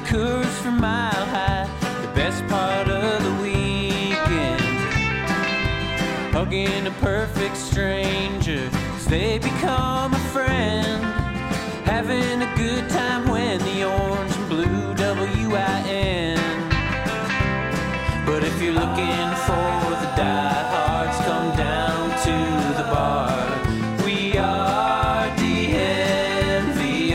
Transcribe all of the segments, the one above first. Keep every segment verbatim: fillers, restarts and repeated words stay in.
Coors from Mile High, the best part of the weekend. Hugging a perfect stranger as they become a friend. Having a good time when the orange and blue W I N. But if you're looking for the diehards, come down to the bar. We are D N V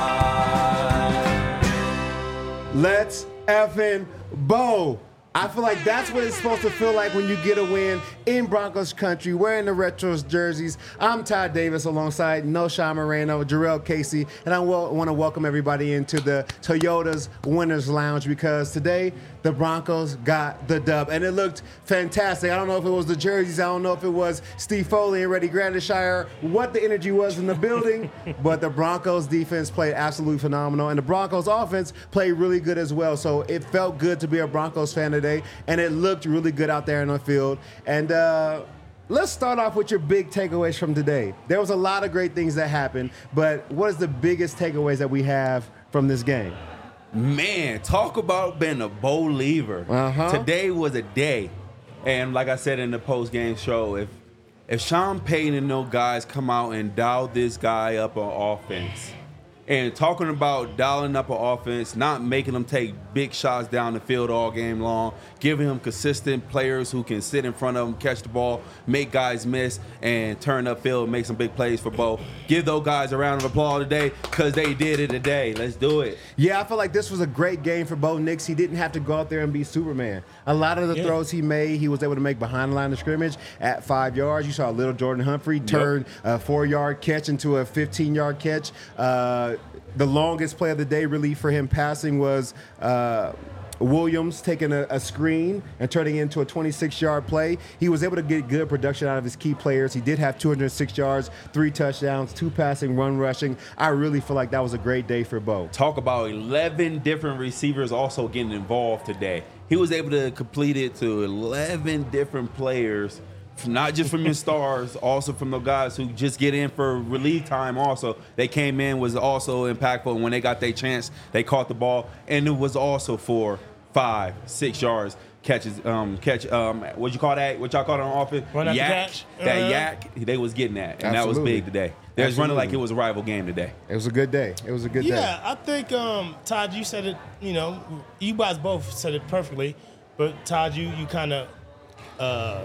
R. Let's effing bow. I feel like that's what it's supposed to feel like when you get a win in Broncos country, wearing the Retros jerseys. I'm Todd Davis alongside No Sean Moreno, Jarrell Casey, and I want to welcome everybody into the Toyota's Winners Lounge because today the Broncos got the dub, and it looked fantastic. I don't know if it was the jerseys. I don't know if it was Steve Foley and Reddy Grandershire, what the energy was in the building, but the Broncos defense played absolutely phenomenal, and the Broncos offense played really good as well. So it felt good to be a Broncos fan today, and it looked really good out there in the field. And uh, let's start off with your big takeaways from today. There was a lot of great things that happened, but what is the biggest takeaways that we have from this game? Man, talk about being a believer. Uh-huh. Today was a day. And like I said in the post-game show, if if Sean Payton and those guys come out and dial this guy up on offense, and talking about dialing up an offense, not making them take big shots down the field all game long, giving him consistent players who can sit in front of him, catch the ball, make guys miss, and turn upfield and make some big plays for Bo. Give those guys a round of applause today because they did it today. Let's do it. Yeah, I feel like this was a great game for Bo Nix. He didn't have to go out there and be Superman. A lot of the yeah. throws he made, he was able to make behind the line of scrimmage at five yards. You saw little Jordan Humphrey turn yep. a four-yard catch into a fifteen-yard catch. Uh, the longest play of the day really for him passing was uh, Williams taking a, a screen and turning it into a twenty-six-yard play. He was able to get good production out of his key players. He did have two hundred six yards, three touchdowns, two passing, one rushing. I really feel like that was a great day for Bo. Talk about eleven different receivers also getting involved today. He was able to complete it to eleven different players, not just from your stars, also from the guys who just get in for relief time also. They came in, was also impactful, and when they got their chance, they caught the ball, and it was also for five, six yards catches, um, catch, um, what you call that? What y'all call it on offense? Run after yak. catch. That Uh-huh. yak, they was getting that, and Absolutely. that was big today. They was running like it was a rival game today. It was a good day. It was a good yeah, day. Yeah, I think, um, Todd, you said it, you know, you guys both said it perfectly, but Todd, you, you kind of uh,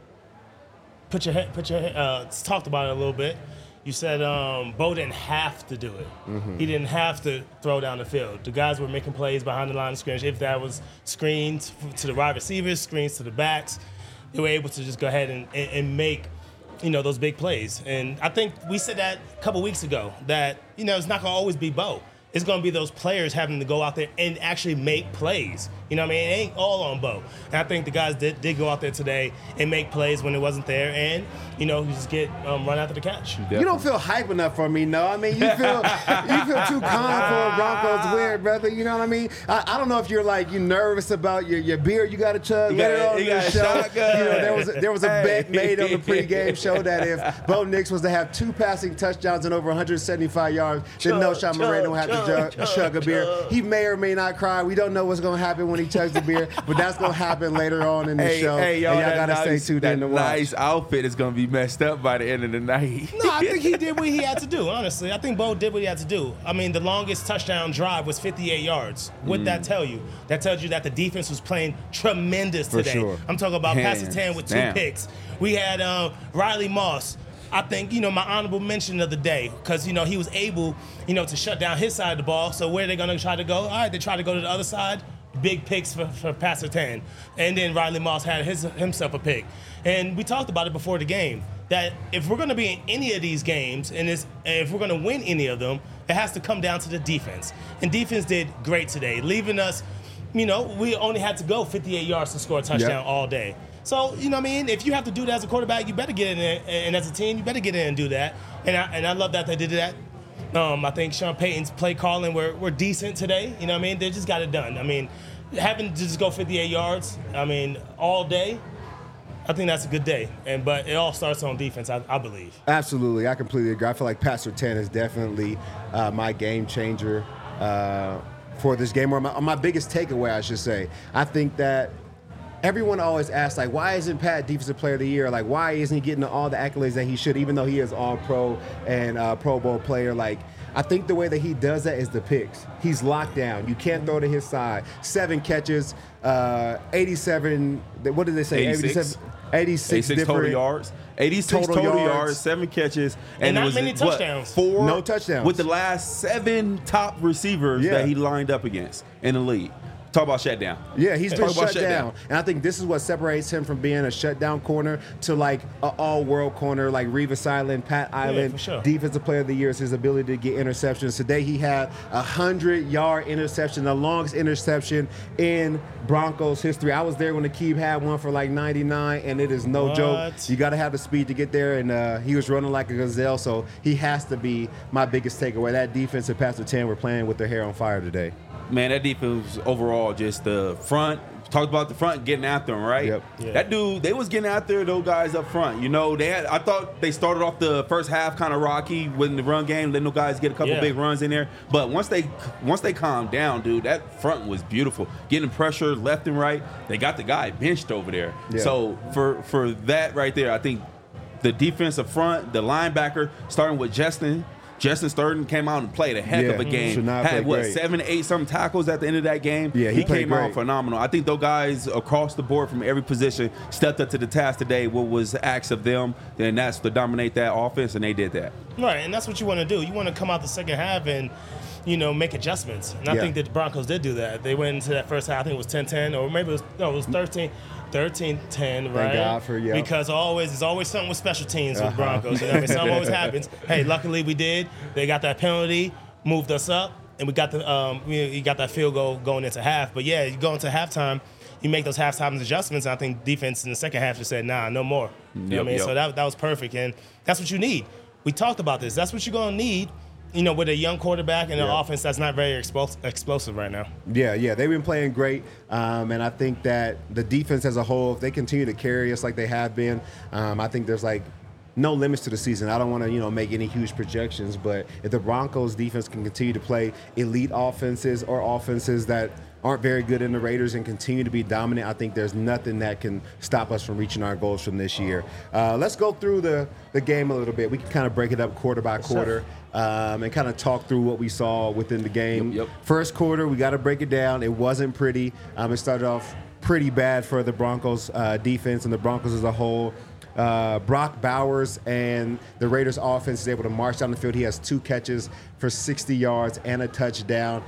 put your head, put your head, uh, talked about it a little bit. You said um, Bo didn't have to do it. Mm-hmm. He didn't have to throw down the field. The guys were making plays behind the line of scrimmage. If that was screens to the wide receivers, screens to the backs, they were able to just go ahead and, and, and make, you know, those big plays. And I think we said that a couple weeks ago, that, you know, it's not going to always be Bo. It's going to be those players having to go out there and actually make plays. You know what I mean? It ain't all on Bo. And I think the guys did, did go out there today and make plays when it wasn't there. And, you know, you just get um, run after the catch. Definitely. You don't feel hype enough for me, no. I mean, you feel you feel too calm for a Broncos win, brother. You know what I mean? I, I don't know if you're like you nervous about your, your beer you got to chug You later got, on you in the got show. shotgun. You know, there was a, there was a Hey. bet made on the pregame show that if Bo Nix was to have two passing touchdowns and over one hundred seventy-five yards, then no Sean Moreno would have to chug, chug, chug a beer. He may or may not cry. We don't know what's going to happen when he chugs the beer, but that's going to happen later on in the Hey, show. hey, y'all, and y'all that got to nice, stay tuned that in to watch. nice outfit is going to be messed up by the end of the night. No, I think he did what he had to do, honestly. I think Bo did what he had to do. I mean, the longest touchdown drive was fifty-eight yards. What'd Mm. that tell you? That tells you that the defense was playing tremendous For today. sure. I'm talking about Hands Pastor with two down. picks. We had uh, Riley Moss. I think, you know, my honorable mention of the day, because, you know, he was able, you know, to shut down his side of the ball. So where are they going to try to go? All right, they try to go to the other side. Big picks for, for Pastor Tan. And then Riley Moss had his, himself a pick. And we talked about it before the game, that if we're going to be in any of these games, and it's, if we're going to win any of them, it has to come down to the defense. And defense did great today, leaving us, you know, we only had to go fifty-eight yards to score a touchdown Yep. all day. So, you know what I mean? If you have to do that as a quarterback, you better get in there. And as a team, you better get in and do that. And I, and I love that they did that. Um, I think Sean Payton's play calling were, were decent today. You know what I mean? They just got it done. I mean, having to just go fifty-eight yards, I mean, all day, I think that's a good day. And But it all starts on defense, I, I believe. Absolutely. I completely agree. I feel like Pastor Tan is definitely uh, my game changer. Uh, for this game, or my, or my biggest takeaway, I should say. I think that everyone always asks, like, why isn't Pat Defensive Player of the Year? Like, why isn't he getting all the accolades that he should, even though he is all-pro and uh, Pro Bowl player? Like, I think the way that he does that is the picks. He's locked down. You can't throw to his side. Seven catches, uh, eighty-seven, what did they say? eighty-six. eighty-six, eighty-six total yards. eighty-six Total total, yards. yards, seven catches, And and, not it was many what, touchdowns. Four, No touchdowns. with the last seven top receivers Yeah. that he lined up against in the league. Talk about shutdown. Yeah, he's been Talk about shut down. shutdown. And I think this is what separates him from being a shutdown corner to like an all-world corner like Revis Island, Pat Island. for sure. Defensive Player of the Year is his ability to get interceptions. Today he had a hundred-yard interception, the longest interception in Broncos history. I was there when Akeem had one for like ninety-nine, and it is no What? joke. You got to have the speed to get there, and uh, he was running like a gazelle, so he has to be my biggest takeaway. That defense and Pastor Ten were playing with their hair on fire today. Man, that defense overall, just the front. Talked about the front getting after him, right? Yep. Yeah. That dude, they was getting after those guys up front. You know, they had. I thought they started off the first half kind of rocky with the run game, letting those guys get a couple Yeah. big runs in there. But once they once they calmed down, dude, that front was beautiful. Getting pressure left and right. They got the guy benched over there. Yeah. So for for that right there, I think the defensive front, the linebacker, starting with Justin. Justin Sturton came out and played a heck Yeah. of a game. Shania Had played what great. seven, eight, some tackles at the end of that game. Yeah, he played came great. out phenomenal. I think those guys across the board from every position stepped up to the task today. What was asked of them, then that's to dominate that offense, and they did that. Right, and that's what you want to do. You want to come out the second half and, you know, make adjustments. And I Yeah. think that the Broncos did do that. They went into that first half, I think it was ten ten, or maybe it was, no, it was thirteen ten, right? God for- yeah. Because always, there's always something with special teams with Uh-huh. Broncos. You know what I mean? Something always happens. Hey, luckily we did. They got that penalty, moved us up, and we got the um, you, you got that field goal going into half. But yeah, you go into halftime, you make those halftime adjustments. And I think defense in the second half just said, nah, no more. You know what I Yep, mean? yep. So that, that was perfect. And that's what you need. We talked about this. That's what you're going to need, you know, with a young quarterback and an Yeah. offense that's not very explos- explosive right now. Yeah, yeah, they've been playing great, um, and I think that the defense as a whole, if they continue to carry us like they have been, um, I think there's like no limits to the season. I don't want to, you know, make any huge projections, but if the Broncos defense can continue to play elite offenses or offenses that aren't very good in the Raiders and continue to be dominant, I think there's nothing that can stop us from reaching our goals from this year. Uh, let's go through the, the game a little bit. We can kind of break it up quarter by quarter um, and kind of talk through what we saw within the game. Yep, yep. First quarter, we got to break it down. It wasn't pretty. Um, it started off pretty bad for the Broncos uh, defense and the Broncos as a whole. Uh, Brock Bowers and the Raiders offense is able to march down the field. He has two catches for sixty yards and a touchdown.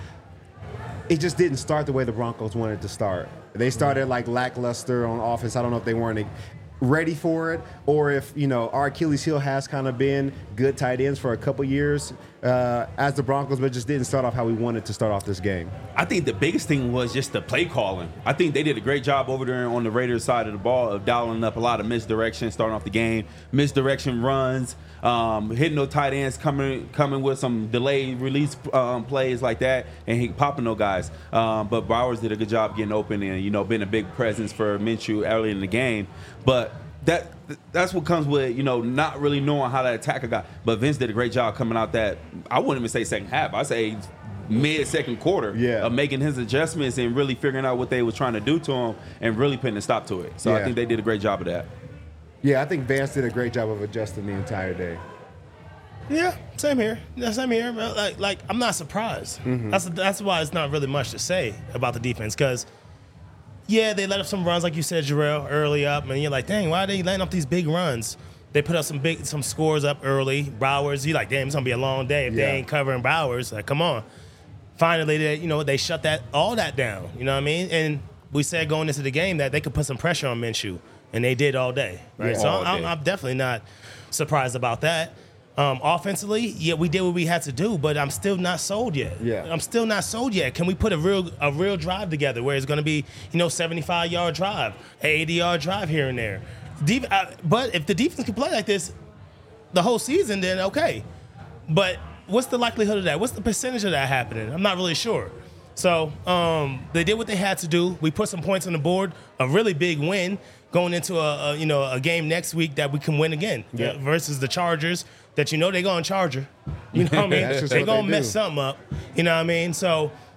It just didn't start the way the Broncos wanted to start. They started like lackluster on offense. I don't know if they weren't ready for it or if, you know, our Achilles heel has kind of been good tight ends for a couple years uh, as the Broncos, but just didn't start off how we wanted to start off this game. I think the biggest thing was just the play calling. I think they did a great job over there on the Raiders side of the ball of dialing up a lot of misdirection, starting off the game, misdirection runs, um, hitting those tight ends, coming coming with some delayed release um, plays like that, and he popping those guys. Um, but Bowers did a good job getting open and, you know, being a big presence for Minshew early in the game. But that that's what comes with, you know, not really knowing how to attack a guy. But Vince did a great job coming out that, I wouldn't even say second half. I say mid second quarter Yeah. of making his adjustments and really figuring out what they were trying to do to him and really putting a stop to it. So I Yeah. think they did a great job of that. Yeah, I think Vance did a great job of adjusting the entire day. Yeah, same here. Yeah, same here. Like, like I'm not surprised. Mm-hmm. That's that's why it's not really much to say about the defense because, yeah, they let up some runs like you said, Jarrell, early up, and you're like, dang, why are they letting up these big runs? They put up some big some scores up early. Bowers, you're like, damn, it's gonna be a long day if Yeah. they ain't covering Bowers. Like, come on. Finally, they you know they shut that all that down. You know what I mean? And we said going into the game that they could put some pressure on Minshew, and they did all day. Right. Yeah, so all I'm, day. I'm definitely not surprised about that. Um, offensively, yeah, we did what we had to do, but I'm still not sold yet. Yeah. I'm still not sold yet. Can we put a real a real drive together where it's going to be, you know, seventy-five yard drive, eighty yard drive here and there? Def- uh, but if the defense can play like this the whole season, then okay. But what's the likelihood of that? What's the percentage of that happening? I'm not really sure. So um, they did what they had to do. We put some points on the board, a really big win going into a, a you know a game next week that we can win again Yeah. uh, versus the Chargers. That you know they're going to charge her. You know what I mean? That's just They're what going to they mess do. something up. You know what I mean? So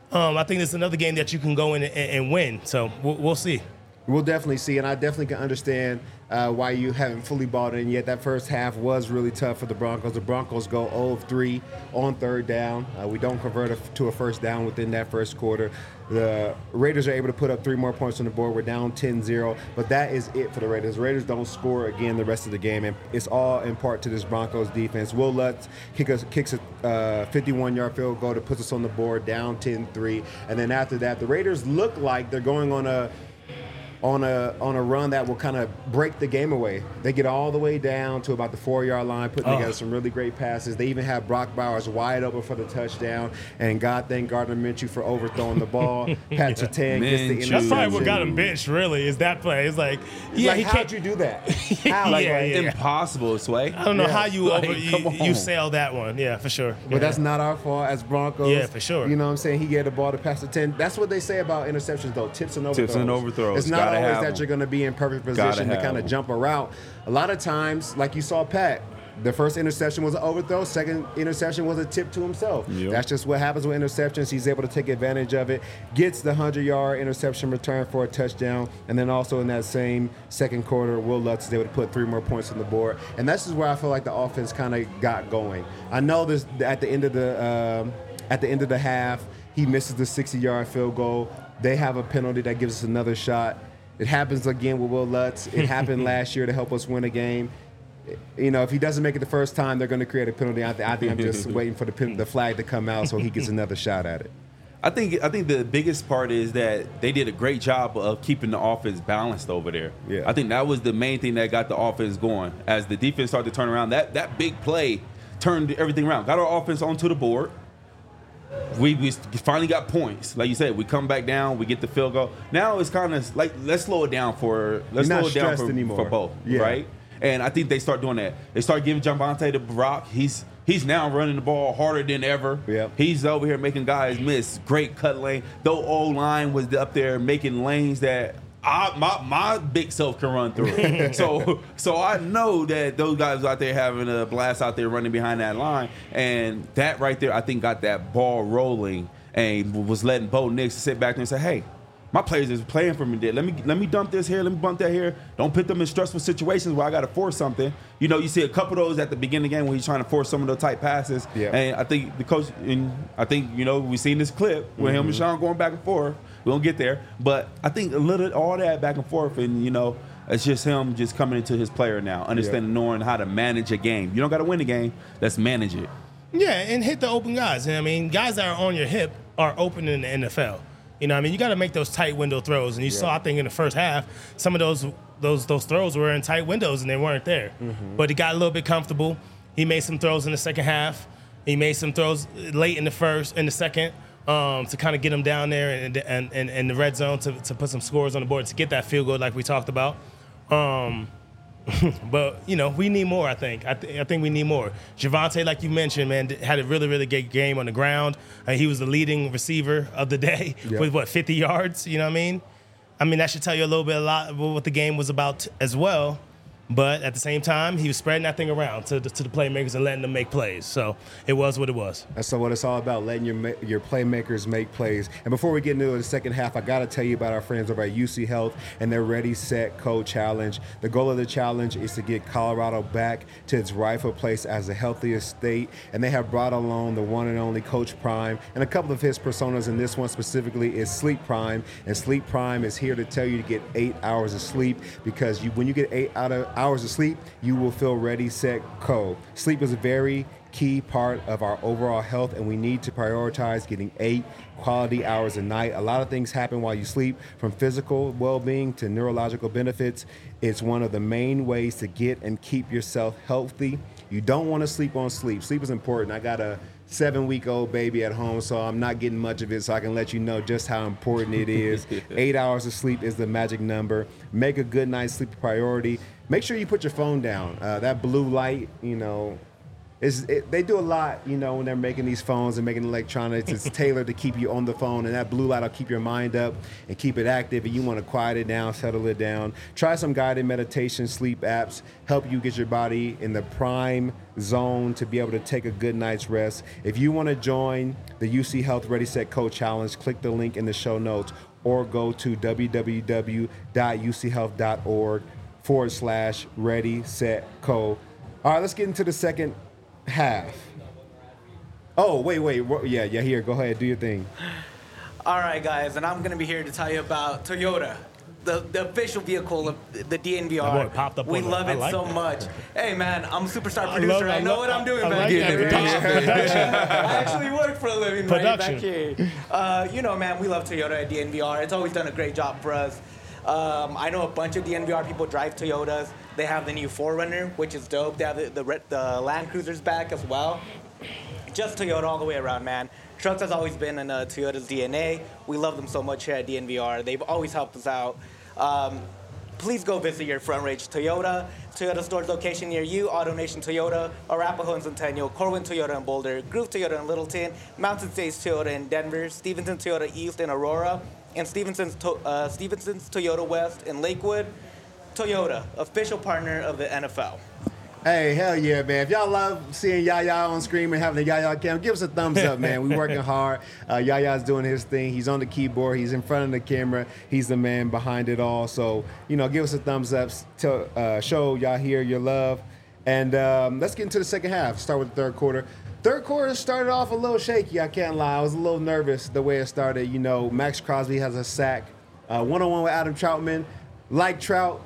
um, I think it's another game that you can go in and, and win. So we'll, we'll see. We'll definitely see, and I definitely can understand uh, why you haven't fully bought in yet. That first half was really tough for the Broncos. The Broncos go zero of three on third down. Uh, we don't convert a, to a first down within that first quarter. The Raiders are able to put up three more points on the board. We're down ten zero, but that is it for the Raiders. The Raiders don't score again the rest of the game, and it's all in part to this Broncos defense. Will Lutz kick us, kicks a fifty-one-yard field goal to put us on the board, down ten three, and then after that, the Raiders look like they're going on a on a on a run that will kind of break the game away. They get all the way down to about the four-yard line, putting Oh. together some really great passes. They even have Brock Bowers wide open for the touchdown, and God thank Gardner Minshew for overthrowing the ball. Pat Surtain gets the Minshew. interception. That's probably what got him benched, really, is that play. It's like, yeah, like, he how'd can't. you do that? How? Like, Yeah, yeah. impossible, Sway. I don't know Yeah. how you Like, over come you, you on. sail that one. Yeah, for sure. But that's not our fault as Broncos. Yeah, for sure. You know what I'm saying? He gave the ball to Pastor ten. That's what they say about interceptions, though. Tips and overthrows. Tips and overthrows. It's not Gotta always have that them. you're going to be in perfect Gotta position to have kind of them. jump a route. A lot of times, like you saw Pat, the first interception was an overthrow. Second interception was a tip to himself. Yep. That's just what happens with interceptions. He's able to take advantage of it. Gets the hundred-yard interception return for a touchdown. And then also in that same second quarter, Will Lutz is able to put three more points on the board. And that's just where I feel like the offense kind of got going. I know this at the end of the um, at the end of the half, he misses the sixty-yard field goal. They have a penalty that gives us another shot. It happens again with Will Lutz. It happened last year to help us win a game. You know, if he doesn't make it the first time, they're going to create a penalty. I, th- I think I'm just waiting for the pen- the flag to come out so he gets another shot at it. I think I think the biggest part is that they did a great job of keeping the offense balanced over there. Yeah. I think that was the main thing that got the offense going. As the defense started to turn around, that that big play turned everything around. Got our offense onto the board. We, we finally got points. Like you said, we come back down, we get the field goal. Now it's kind of like, let's slow it down for let's You're slow not it down stressed for, anymore. for both, Yeah. right? And I think they start doing that. They start giving Javonte to Brock. He's he's now running the ball harder than ever. Yep. He's over here making guys miss. Great cut lane. The old line was up there making lanes that I, my my big self can run through. so so I know that those guys out there having a blast out there running behind that line, and that right there I think got that ball rolling and was letting Bo Nix sit back there and say, hey, my players is playing for me there. Let me let me dump this here. Let me bump that here. Don't put them in stressful situations where I got to force something. You know, you see a couple of those at the beginning of the game when he's trying to force some of those tight passes. Yeah. And I think the coach, and I think, you know, we've seen this clip with him and Sean going back and forth. We don't get there. But I think a little, all that back and forth, and, you know, it's just him just coming into his player now, understanding, knowing how to manage a game. You don't got to win the game. Let's manage it. Yeah, and hit the open guys. I mean, guys that are on your hip are open in the N F L. You know, I mean, you got to make those tight window throws. And you saw, I think, in the first half, some of those those those throws were in tight windows and they weren't there. Mm-hmm. But he got a little bit comfortable. He made some throws in the second half. He made some throws late in the first, in the second, um, to kind of get him down there and and and in the red zone to to put some scores on the board to get that field goal like we talked about. Um, but, you know, we need more, I think. I, th- I think we need more. Javonte, like you mentioned, man, had a really, really good game on the ground. Uh, he was the leading receiver of the day Yep. with, what, fifty yards? You know what I mean? I mean, that should tell you a little bit a lot about what the game was about as well. But at the same time, he was spreading that thing around to the, to the playmakers and letting them make plays. So it was what it was. That's what it's all about, letting your ma- your playmakers make plays. And before we get into the second half, I got to tell you about our friends over at U C Health and their Ready, Set, Go challenge. The goal of the challenge is to get Colorado back to its rightful place as the healthiest state. And they have brought along the one and only Coach Prime. And a couple of his personas, and this one specifically is Sleep Prime. And Sleep Prime is here to tell you to get eight hours of sleep, because you, when you get eight out of hours of sleep, you will feel ready, set, go. Sleep is a very key part of our overall health, and we need to prioritize getting eight quality hours a night. A lot of things happen while you sleep, from physical well-being to neurological benefits. It's one of the main ways to get and keep yourself healthy. You don't want to sleep on sleep. Sleep is important. I got a seven-week-old baby at home, so I'm not getting much of it, so I can let you know just how important it is. Eight hours of sleep is the magic number. Make a good night's sleep a priority. Make sure you put your phone down. Uh, that blue light, you know, It's, it, they do a lot, you know, when they're making these phones and making electronics. It's tailored to keep you on the phone, and that blue light will keep your mind up and keep it active. And you want to quiet it down, settle it down. Try some guided meditation, sleep apps, help you get your body in the prime zone to be able to take a good night's rest. If you want to join the U C Health Ready, Set, Co Challenge, click the link in the show notes or go to www.uchealth.org forward slash Ready, Set, Co. All right, let's get into the second half. Oh, wait, wait. Yeah, yeah, here. Go ahead. Do your thing. All right, guys, and I'm going to be here to tell you about Toyota, the, the official vehicle of the D N V R. My boy popped up we on love it. I it like so that. much. Hey, man, I'm a superstar I producer. love- I, I know love- what I'm doing I back like here. that. Production, production. I actually work for a living Production. right back here. Uh, you know, man, we love Toyota at D N V R. It's always done a great job for us. Um, I know a bunch of D N V R people drive Toyotas. They have the new four runner, which is dope. They have the, the, re- the Land Cruisers back as well. Just Toyota all the way around, man. Trucks has always been in uh, Toyota's D N A. We love them so much here at D N V R. They've always helped us out. Um, please go visit your Front Range Toyota. Toyota stores location near you, AutoNation Toyota, Arapahoe and Centennial, Corwin Toyota in Boulder, Groove Toyota in Littleton, Mountain States Toyota in Denver, Stevenson Toyota East in Aurora, and Stevenson's, to- uh, Stevenson's Toyota West in Lakewood. Toyota, official partner of the N F L. Hey, hell yeah, man. If y'all love seeing Yaya on screen and having the Yaya cam, give us a thumbs up, man. We working hard. Uh, Yaya's doing his thing. He's on the keyboard. He's in front of the camera. He's the man behind it all. So, you know, give us a thumbs up. To, uh, show y'all here your love. And um, let's get into the second half. Start with the third quarter. Third quarter started off a little shaky, I can't lie. I was a little nervous the way it started. You know, Max Crosby has a sack. Uh, one-on-one with Adam Troutman. Like Trout,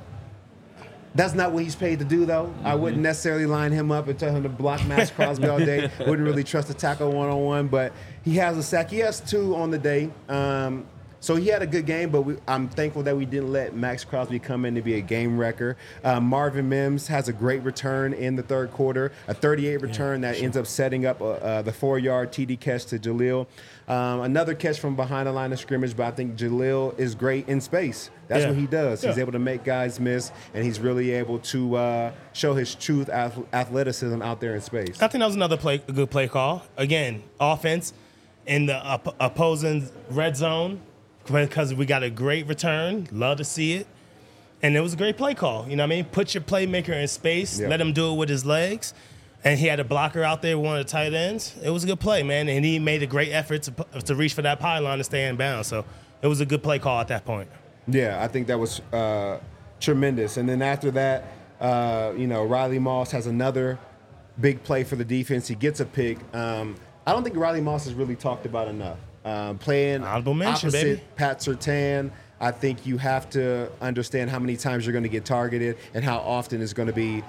that's not what he's paid to do, though. Mm-hmm. I wouldn't necessarily line him up and tell him to block Max Crosby all day. Wouldn't really trust a tackle one-on-one, but he has a sack. He has two on the day. Um, so he had a good game, but we, I'm thankful that we didn't let Max Crosby come in to be a game wrecker. Uh, Marvin Mims has a great return in the third quarter, a thirty-eight return yeah, that sure. ends up setting up uh, uh, the four-yard T D catch to Jaleel. Um, another catch from behind the line of scrimmage, but I think Jaleel is great in space. That's yeah. what he does. Yeah. He's able to make guys miss, and he's really able to uh, show his truth ath- athleticism out there in space. I think that was another play, a good play call. Again, offense in the op- opposing red zone because we got a great return. Love to see it. And it was a great play call. You know what I mean? Put your playmaker in space. Yeah. Let him do it with his legs. And he had a blocker out there, one of the tight ends. It was a good play, man. And he made a great effort to, to reach for that pylon and stay in bounds. So it was a good play call at that point. Yeah, I think that was uh, tremendous. And then after that, uh, you know, Riley Moss has another big play for the defense. He gets a pick. Um, I don't think Riley Moss is really talked about enough. Um, playing Honorable mention, opposite baby. Pat Surtain, I think you have to understand how many times you're going to get targeted and how often it's going to be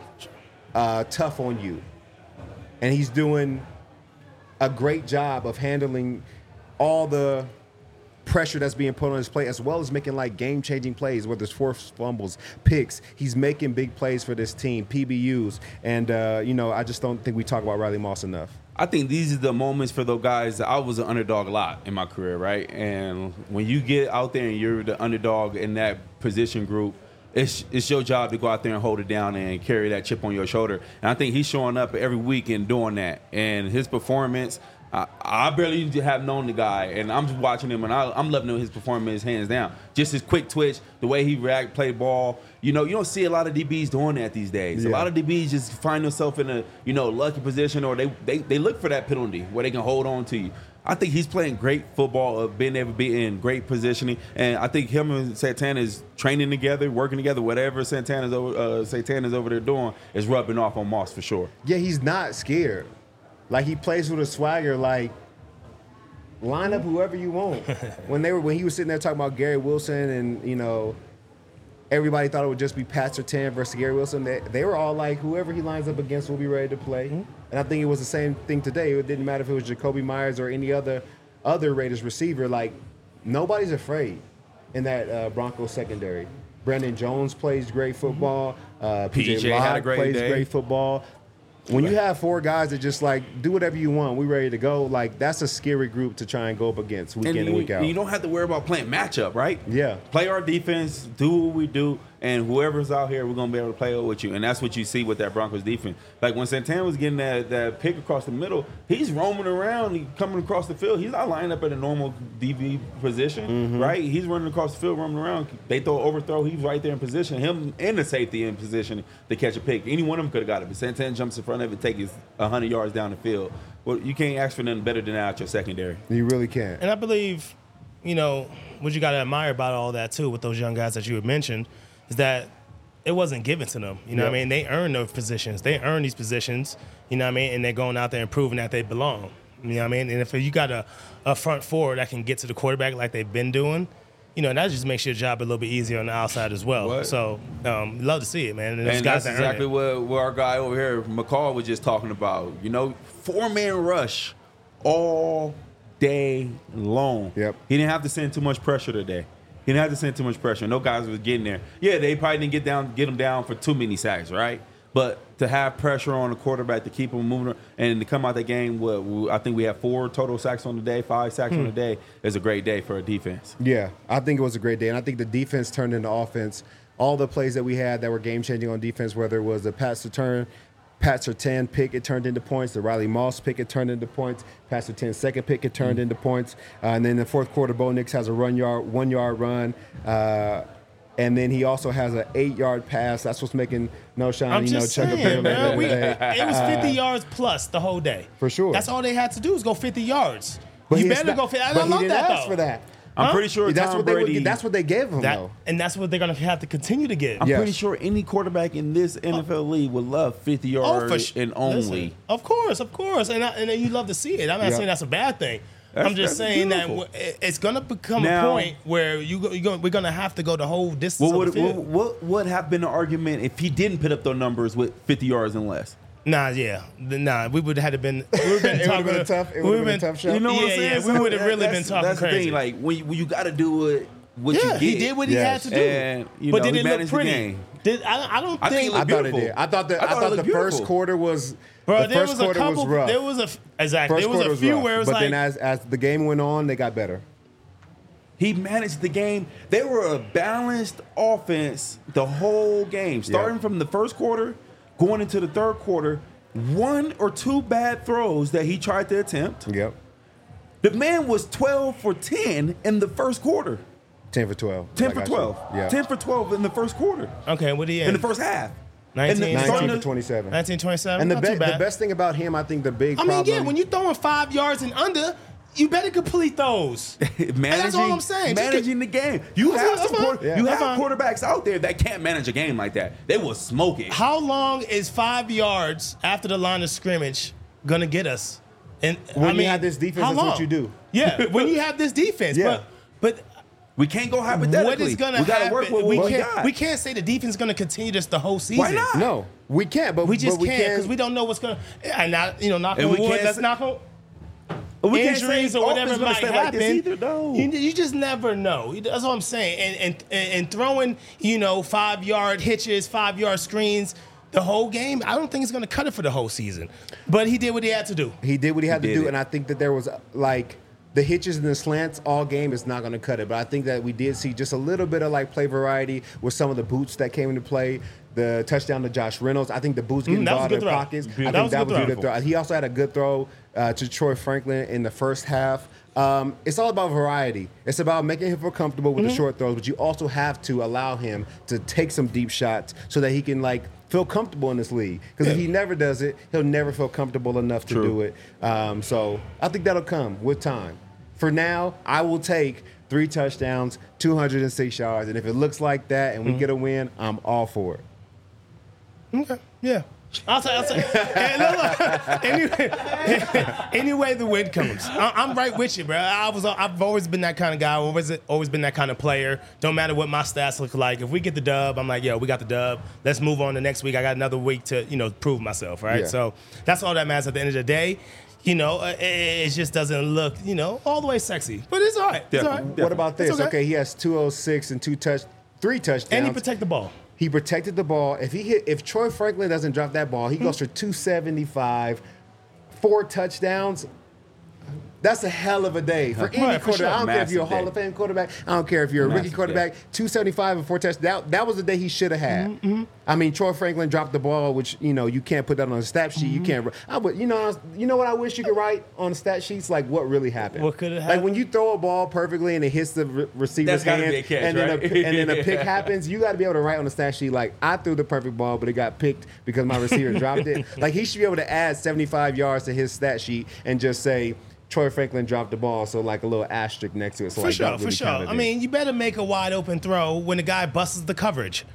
uh, tough on you. And he's doing a great job of handling all the pressure that's being put on his plate, as well as making like game-changing plays, whether it's forced fumbles, picks. He's making big plays for this team, P B Us. And, uh, you know, I just don't think we talk about Riley Moss enough. I think these are the moments for those guys. I was an underdog a lot in my career, right? And when you get out there and you're the underdog in that position group, it's it's your job to go out there and hold it down and carry that chip on your shoulder. And I think he's showing up every week and doing that. And his performance, I, I barely have known the guy, and I'm just watching him, and I, I'm loving his performance hands down. Just his quick twitch, the way he react, play ball. You know, you don't see a lot of D Bs doing that these days. Yeah. A lot of D Bs just find themselves in a, you know, lucky position, or they, they, they look for that penalty where they can hold on to you. I think he's playing great football, of being able to be in great positioning, and I think him and Santana is training together, working together. Whatever Santana's over, uh, Santana's over there doing is rubbing off on Moss for sure. Yeah, he's not scared. Like, he plays with a swagger, like, line up whoever you want. When they were when he was sitting there talking about Gary Wilson and, you know, everybody thought it would just be Pat Surtain versus Gary Wilson, they, they were all like, whoever he lines up against will be ready to play. Mm-hmm. And I think it was the same thing today. It didn't matter if it was Jacoby Myers or any other other Raiders receiver. Like, nobody's afraid in that uh, Broncos secondary. Brandon Jones plays great football. Uh, P J, P J Locke had a great plays day. great football. When you have four guys that just like do whatever you want, we ready to go. Like, that's a scary group to try and go up against week And in you, and week out. you don't have to worry about playing matchup, right? Yeah. Play our defense, do what we do, and whoever's out here, we're gonna be able to play with you. And that's what you see with that Broncos defense. Like when Santana was getting that, that pick across the middle, he's roaming around, he coming across the field. He's not lining up at a normal D B position, Mm-hmm. right? He's running across the field, roaming around. They throw an overthrow, he's right there in position. Him and the safety in position to catch a pick. Any one of them could have got it, but Santana jumps in front of it, takes it one hundred yards down the field. Well, you can't ask for nothing better than that out your secondary. You really can't. And I believe, you know, what you got to admire about all that too with those young guys that you had mentioned is that it wasn't given to them. You know Yep. what I mean? They earned those positions. They earned these positions, you know what I mean? And they're going out there and proving that they belong. You know what I mean? And if you got a, a front four that can get to the quarterback like they've been doing, you know, that just makes your job a little bit easier on the outside as well. What? So, um, love to see it, man. And, those And guys that's that earn exactly it. what, what our guy over here, McCall, was just talking about. You know, four-man rush all day long. Yep. He didn't have to send too much pressure today. He didn't have to send too much pressure. No guys was getting there. Yeah, they probably didn't get down, get him down for too many sacks, right? But to have pressure on the quarterback to keep him moving and to come out that game, what I think we have four total sacks on the day, five sacks Hmm. on the day is a great day for a defense. Yeah, I think it was a great day, and I think the defense turned into offense. All the plays that we had that were game-changing on defense, whether it was the Pat Surtain, Pat Surtain pick, it turned into points. The Riley Moss pick, it turned into points. Pat Surtain's second pick, it turned into points. Uh, and then in the fourth quarter, Bo Nix has a run yard, one-yard run. Uh, and then he also has an eight-yard pass. That's what's making No Shine, I'm you know, just chuck a saying, pill man. We, every day. it was fifty yards plus the whole day. For sure. That's all they had to do was go fifty yards. But you he better expect- go fifty. I but he love didn't that, ask though. for that. I'm Huh? pretty sure That's Tom what they Brady. would, That's what they gave him, That, though. and that's what they're going to have to continue to get. I'm Yes. pretty sure any quarterback in this N F L league would love fifty yards Oh, for sure. and only. Listen, of course, of course. And, I, and you love to see it. I'm not Yeah. saying that's a bad thing. That's- I'm just that's saying beautiful. that w- it's going to become Now- a point where you go, you go, we're going to have to go the whole distance What of the would field. what, what would have been the argument if he didn't put up those numbers with fifty yards and less? Nah, yeah. Nah, we would have had to been, we would have been It talking. would've been tough- it we would've would've been a tough shot. You know what yeah, I'm saying? Yeah, we So would have really that's- been talking That's the crazy. thing. Like when you, when you got to do it, what yeah, you get. he did what he Yes. had to do. And, you but know, did he it look managed the pretty? game. Did I, I don't I think think. it I looked thought it beautiful. did. I thought that I I thought thought, it the looked first beautiful. quarter was Bro, the there first was a quarter couple. was rough. There was a exactly. First There was quarter a was few rough. where it was but like, then as as the game went on, they got better. He managed the game. They were a balanced offense the whole game, starting Yeah. from the first quarter, going into the third quarter. One or two bad throws that he tried to attempt. Yep, The man was twelve for ten in the first quarter. ten for twelve. ten like for I said. twelve. Yeah, ten for twelve in the first quarter. okay, what do you In the first half. nineteen, And the- starting nineteen to- for twenty-seven. nineteen twenty-seven. And the, Not be- too the bad. best thing about him, I think, the big I mean, problem. yeah, when you're throwing five yards and under, you better complete those. managing, that's all I'm saying. Just Managing the game. You That's have fine, some that's quarter- fine. Yeah. you That's have fine. quarterbacks out there that can't manage a game like that. They will smoke it. How long is five yards after the line of scrimmage gonna get us? And When I you mean, have this defense, how that's what long? you do. Yeah, when you have this defense, Yeah. but but We can't go hypothetically. what is gonna we gotta happen? work with what we we, can't got. we can't say the defense is gonna continue this the whole season. Why not? no, we can't. But We just but we can't because we don't know what's gonna. And not you know, knock And on we wood. can't Let's say- knock on. We can't Injuries say or whatever offense might gonna stay happen. like this either, though. You, you just never know. That's what I'm saying. And and and throwing, you know, five yard hitches, five yard screens, the whole game. I don't think it's going to cut it for the whole season. But he did what he had to do. He did what he had He to did do, it. and I think that there was uh, like the hitches and the slants all game is not going to cut it. But I think that we did see just a little bit of like play variety with some of the boots that came into play. The touchdown to Josh Reynolds. I think the boots getting Mm, that was ball a in good their throw. pockets. That I think was a that good was a throw. good throw. He also had a good throw uh, to Troy Franklin in the first half. Um, it's all about variety. It's about making him feel comfortable with Mm-hmm. the short throws, but you also have to allow him to take some deep shots so that he can like feel comfortable in this league. Because if he never does it, he'll never feel comfortable enough to True. do it. Um, so I think that'll come with time. For now, I will take three touchdowns, two hundred six yards, and if it looks like that and we get a win, I'm all for it. Okay. Yeah. I'll say, I'll say. Hey, look, look. Anyway, anyway, the win comes. I, I'm right with you, bro. I was, I've always been that kind of guy. Always, always been that kind of player. Don't matter what my stats look like. If we get the dub, I'm like, yo, we got the dub. Let's move on to next week. I got another week to, you know, prove myself, right? Yeah. So that's all that matters at the end of the day. You know, uh, it, it just doesn't look, you know, all the way sexy, but it's all right. It's all right. Definitely. What about It's this? okay. Okay. he has two oh six and two touch, three touchdowns. And he protect the ball. He protected the ball. If he hit, if Troy Franklin doesn't drop that ball, he goes for two seventy-five, four touchdowns. That's a hell of a day for any Right, for quarterback. sure. I don't care if you're a Massive Hall day. of Fame quarterback. I don't care if you're a rookie Massive quarterback. two seventy-five and four touchdowns. That, that was the day he should have had. Mm-hmm. I mean, Troy Franklin dropped the ball, which you know you can't put that on a stat sheet. Mm-hmm. You can't. I would. You know. You know what I wish you could write on the stat sheets, like what really happened. What could have Like when happened? you throw a ball perfectly and it hits the re- receiver's That's gotta hands, be a catch, and then right? a, and then a pick happens. You got to be able to write on the stat sheet like I threw the perfect ball, but it got picked because my receiver dropped it. Like he should be able to add seventy-five yards to his stat sheet and just say Troy Franklin dropped the ball, so like a little asterisk next to it. So For like sure, that for really sure. counted I it. mean, you better make a wide open throw when the guy busts the coverage.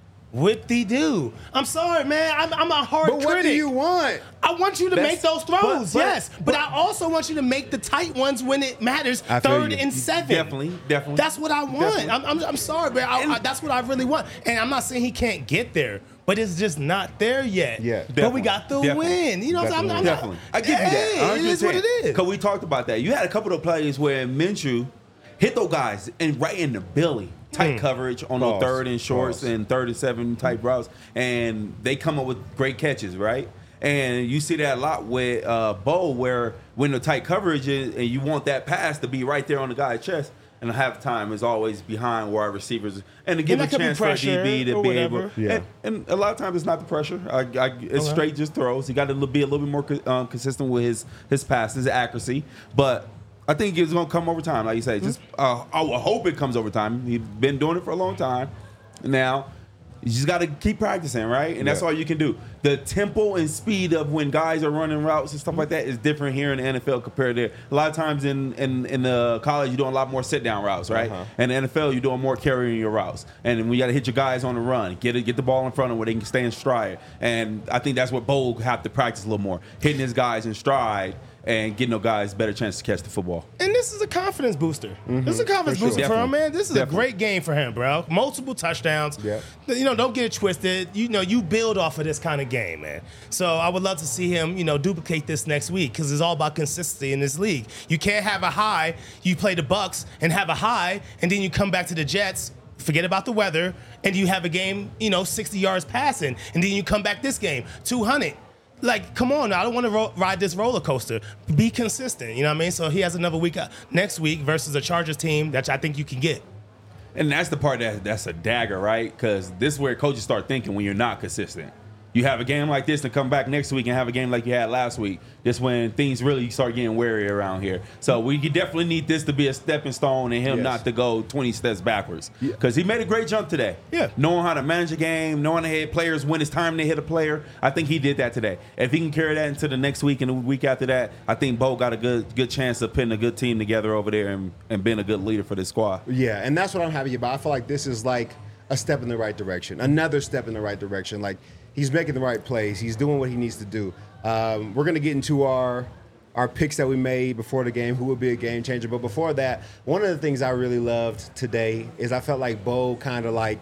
Whip-de-doo. I'm sorry, man. I'm, I'm a hard but critic. what do you want? I want you to That's- make those throws, but- but- yes. But, I also want you to make the tight ones when it matters, I feel third you. and seven. Definitely, definitely. That's what I want. Definitely. I'm, I'm, I'm sorry, but I, I, that's what I really want. And I'm not saying he can't get there, but it's just not there yet. Yeah. But we got the Definitely. win. You know what I'm saying? I'm not- Definitely. I give you Hey, that. It is what it is. Because we talked about that. You had a couple of plays where Minshew hit those guys and right in the belly. Tight coverage on Pause. the third and shorts Pause. and third and seven type routes. And they come up with great catches, right? And you see that a lot with uh, Bo, where when the tight coverage is, and you want that pass to be right there on the guy's chest, and half the time is always behind wide receivers, and to give And a that could be chance for a pressure D B to or be whatever. able. Yeah. And, and a lot of times it's not the pressure. I, I, it's Okay. straight just throws. He got to be a little bit more co- um, consistent with his his passes, accuracy, but. I think it's gonna come over time, like you say. Just uh, I will hope it comes over time. He's been doing it for a long time. Now you just got to keep practicing, right? And that's Yeah. all you can do. The tempo and speed of when guys are running routes and stuff like that is different here in the N F L compared to a lot of times in in, in the college you're doing a lot more sit down routes, right? Uh-huh. And the N F L you're doing more carrying your routes, and we got to hit your guys on the run, get it, get the ball in front of them where they can stay in stride. And I think that's what Bo have to practice a little more, hitting his guys in stride. And getting those guys better chance to catch the football. And this is a confidence booster. This is a confidence For booster sure. for him, man. This is Definitely. a great game for him, bro. Multiple touchdowns. Yep. You know, don't get it twisted. You know, you build off of this kind of game, man. So I would love to see him, you know, duplicate this next week because it's all about consistency in this league. You can't have a high. You play the Bucks and have a high, and then you come back to the Jets. Forget about the weather, and you have a game, you know, sixty yards passing, and then you come back this game, two hundred. Like, come on, I don't want to ro- ride this roller coaster. Be consistent, you know what I mean? So he has another week uh, next week versus a Chargers team that I think you can get. And that's the part that that's a dagger, right? Because this is where coaches start thinking when you're not consistent. You have a game like this to come back next week and have a game like you had last week. That's when things really start getting wary around here. So we could definitely need this to be a stepping stone and him Yes. not to go twenty steps backwards. Because he made a great jump today. Yeah. Knowing how to manage a game, knowing how to hit players when it's time to hit a player. I think he did that today. If he can carry that into the next week and the week after that, I think Bo got a good good chance of putting a good team together over there and, and being a good leader for this squad. Yeah, and that's what I'm happy about. I feel like this is like a step in the right direction, another step in the right direction. Like he's making the right plays. He's doing what he needs to do. Um, we're gonna get into our our picks that we made before the game. Who would be a game changer? But before that, one of the things I really loved today is I felt like Bo kind of like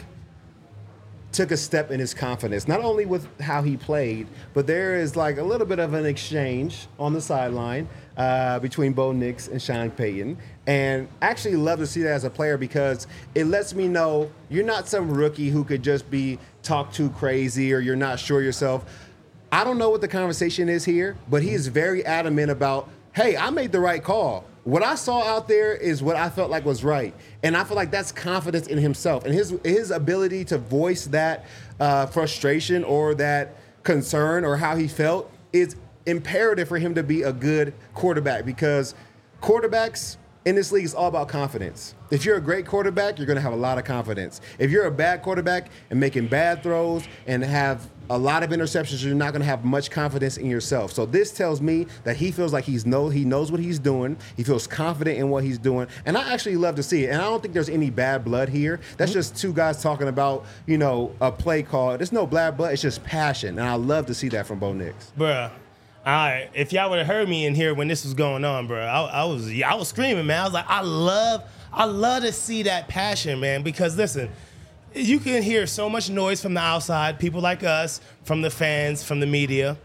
took a step in his confidence, not only with how he played, but there is like a little bit of an exchange on the sideline uh, between Bo Nix and Sean Payton. And actually love to see that as a player because it lets me know you're not some rookie who could just be talked too crazy or you're not sure yourself. I don't know what the conversation is here, but he is very adamant about, hey, I made the right call. What I saw out there is what I felt like was right. And I feel like that's confidence in himself. And his his ability to voice that uh, frustration or that concern or how he felt is imperative for him to be a good quarterback because quarterbacks in this league is all about confidence. If you're a great quarterback, you're going to have a lot of confidence. If you're a bad quarterback and making bad throws and have a lot of interceptions, you're not going to have much confidence in yourself. So this tells me that he feels like he's know he knows what he's doing. He feels confident in what he's doing, and I actually love to see it. And I don't think there's any bad blood here. That's just two guys talking about, you know, a play call. There's no bad blood. It's just passion, and I love to see that from Bo Nix. Bruh. All right, if y'all would have heard me in here when this was going on, bro, I, I was I was screaming, man. I was like, I love, I love to see that passion, man. Because listen, you can hear so much noise from the outside, people like us, from the fans, from the media.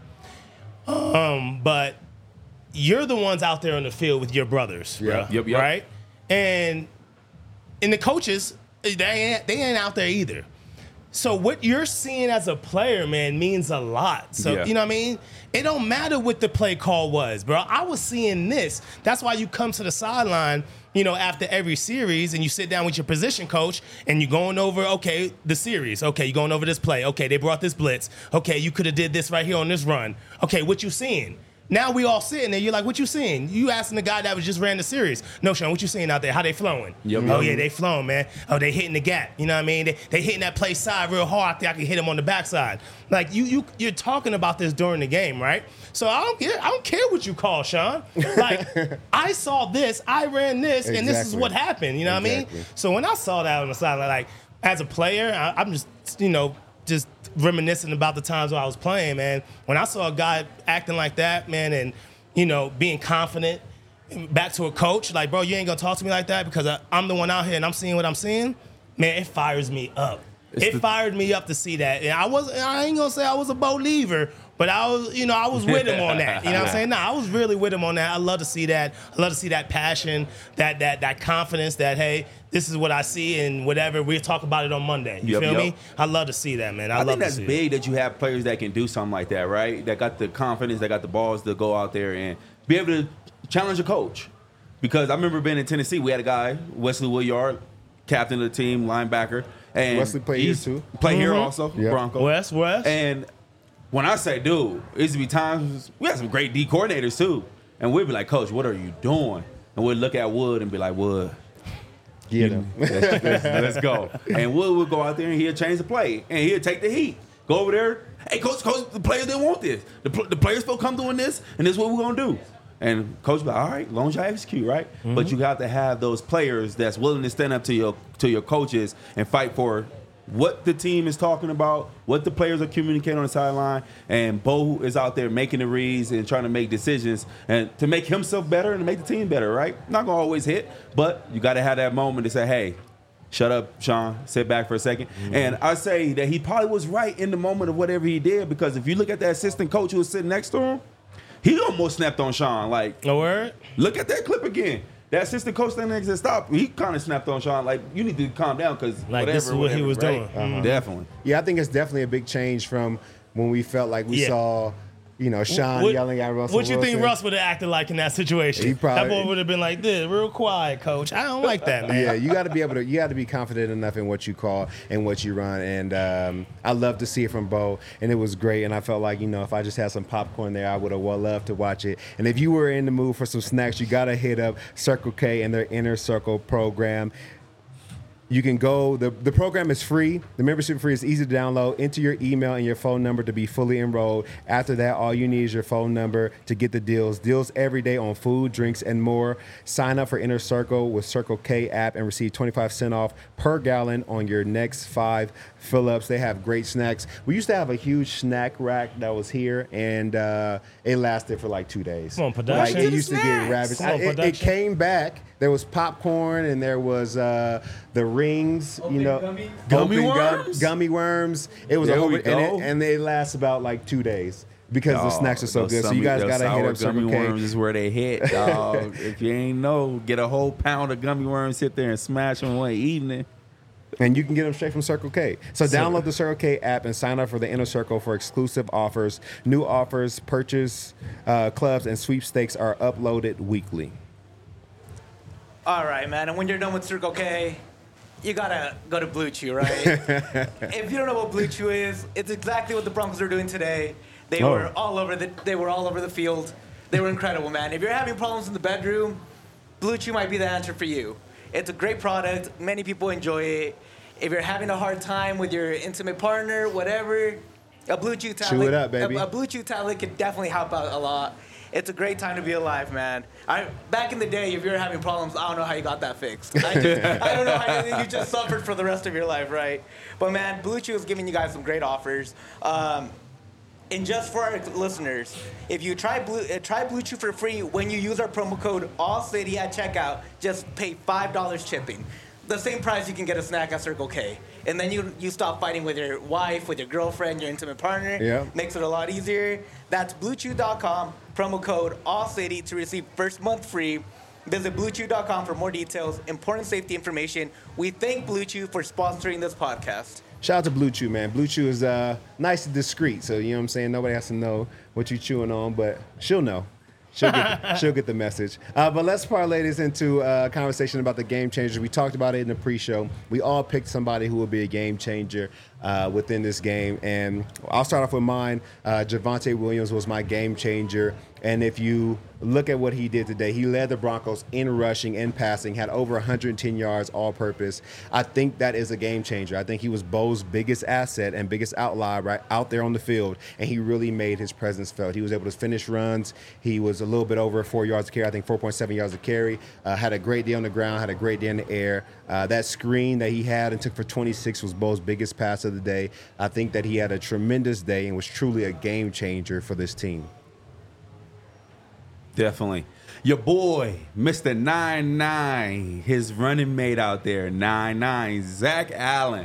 Um, but you're the ones out there on the field with your brothers, Yeah. bruh, Yep, yep. right? And and the coaches, they ain't, they ain't out there either. So what you're seeing as a player, man, means a lot. So, Yeah. you know what I mean? It don't matter what the play call was, bro. I was seeing this. That's why you come to the sideline, you know, after every series and you sit down with your position coach and you're going over, okay, the series. Okay, you're going over this play. Okay, they brought this blitz. Okay, you could have did this right here on this run. Okay, what you seeing? Now we all sitting there. You're like, what you seeing? You asking the guy that was just ran the series. No, Sean, what you seeing out there? How they flowing? Yep. Oh, yeah, they flowing, man. Oh, they hitting the gap. You know what I mean? They, they hitting that play side real hard. I think I can hit him on the backside. Like, you, you, you're talking about this during the game, right? So I don't care. I don't care what you call, Sean. Like, I saw this. I ran this, and this is Exactly. what happened. You know what I Exactly. mean? So when I saw that on the sideline, like, as a player, I, I'm just, you know, just reminiscing about the times when I was playing, man. When I saw a guy acting like that, man, and you know, being confident, back to a coach, like, bro, you ain't gonna talk to me like that because I, I'm the one out here and I'm seeing what I'm seeing. Man, it fires me up. It's it the- fired me up to see that. And I was, I ain't gonna say I was a believer, but I was, you know, I was with him on that. You know what I'm saying? Nah, I was really with him on that. I love to see that. I love to see that passion, that that that confidence that, hey, this is what I see and whatever. We'll talk about it on Monday. You Yep, feel yep. me? I love to see that, man. I, I love think to that's see big it. that you have players that can do something like that, right? That got the confidence, that got the balls to go out there and be able to challenge a coach. Because I remember being in Tennessee, we had a guy, Wesley Woodyard, captain of the team, linebacker. And Wesley played here he's- too. Played here Mhm. also, Yep. Bronco. Wes, Wes. And when I say, dude, it used to be times, we had some great D coordinators too. And we'd be like, Coach, what are you doing? And we'd look at Wood and be like, Wood, Get him. let's, let's- let's go. And Wood would go out there and he'd change the play. And he'd take the heat. Go over there. Hey, coach, coach, the players didn't want this. The, pl- the players feel come doing this, and this is what we're going to do. And coach be like, all right, as long as y'all execute, right? Mm-hmm. But you got to have those players that's willing to stand up to your to your coaches and fight for what the team is talking about, what the players are communicating on the sideline. And Bo is out there making the reads and trying to make decisions and to make himself better and to make the team better, right? Not going to always hit, but you got to have that moment to say, hey, shut up, Sean. Sit back for a second. Mm-hmm. And I say that he probably was right in the moment of whatever he did, because if you look at that assistant coach who was sitting next to him, he almost snapped on Sean. Like, No word? look at that clip again. That assistant coach standing next to stop, he kind of snapped on Sean. Like, you need to calm down because Like, whatever, this is what whatever, he was right? doing. Mhm. Definitely. Yeah, I think it's definitely a big change from when we felt like we Yeah. saw, you know, Sean What- yelling at Russell What you think Wilson. Russ would have acted like in that situation? He probably- that boy would have been like this, real quiet, coach. I don't like that, man. Yeah, you got to be able to. You got to be confident enough in what you call and what you run. And um, I love to see it from Bo, and it was great. And I felt like, you know, if I just had some popcorn there, I would have well loved to watch it. And if you were in the mood for some snacks, you got to hit up Circle K and their Inner Circle program. You can go, the, the program is free. The membership free is easy to download. Enter your email and your phone number to be fully enrolled. After that, all you need is your phone number to get the deals. Deals every day on food, drinks, and more. Sign up for Inner Circle with Circle K app and receive twenty-five cents off per gallon on your next five fill-ups. They have great snacks. We used to have a huge snack rack that was here, and uh, it lasted for like two days. Come on, Like, production. it used to get Snacks. ravaged. Come on, I- it, it production. came back. There was popcorn and there was uh, the rings, you know, gummy? Gummy open gum- worms? gummy worms. It was There a whole we bit, and, go. it, and they last about like two days because the Oh, snacks are so those good. So you gummy- guys those gotta hit sour up Circle gummy K. worms is where they hit, dog. If you ain't know, get a whole pound of gummy worms, sit there and smash them one evening. And you can get them straight from Circle K. So download the Circle K app and sign up for the Inner Circle for exclusive offers. New offers, purchase uh, clubs, and sweepstakes are uploaded weekly. All right, man. And when you're done with Circle K, you gotta go to Blue Chew, right? If you don't know what Blue Chew is, it's exactly what the Broncos are doing today. They Oh. were all over the they were all over the field. They were incredible, man. If you're having problems in the bedroom, Blue Chew might be the answer for you. It's a great product. Many people enjoy it. If you're having a hard time with your intimate partner, whatever, a Blue Chew tablet, it up, baby. A, a Blue Chew tablet could definitely help out a lot. It's a great time to be alive, man. I, back in the day, if you were having problems, I don't know how you got that fixed. I, just, I don't know how you, you just suffered for the rest of your life, right? But man, Blue Chew is giving you guys some great offers. Um, and just for our listeners, if you try Blue, uh, try Blue Chew for free when you use our promo code ALLCITY at checkout, just pay five dollars shipping. The same price you can get a snack at Circle K. And then you you stop fighting with your wife, with your girlfriend, your intimate partner. Yeah. Makes it a lot easier. That's blue chew dot com, promo code ALLCITY to receive first month free. Visit blue chew dot com for more details, important safety information. We thank Blue Chew for sponsoring this podcast. Shout out to Blue Chew, man. Blue Chew is uh, nice and discreet, so you know what I'm saying? Nobody has to know what you're chewing on, but she'll know. She'll get, she'll get the message. Uh, but let's parlay this into a conversation about the game changers. We talked about it in the pre-show. We all picked somebody who will be a game changer uh, within this game. And I'll start off with mine. Uh, Javonte Williams was my game changer. And if you look at what he did today, he led the Broncos in rushing and passing, had over one hundred ten yards all-purpose. I think that is a game changer. I think he was Bo's biggest asset and biggest outlier right out there on the field, and he really made his presence felt. He was able to finish runs. He was a little bit over four yards a carry, I think four point seven yards a carry. Uh, had a great day on the ground, had a great day in the air. Uh, that screen that he had and took for twenty-six was Bo's biggest pass of the day. I think that he had a tremendous day and was truly a game changer for this team. Definitely. Your boy, Mister nine nine, his running mate out there, nine nine, Zach Allen.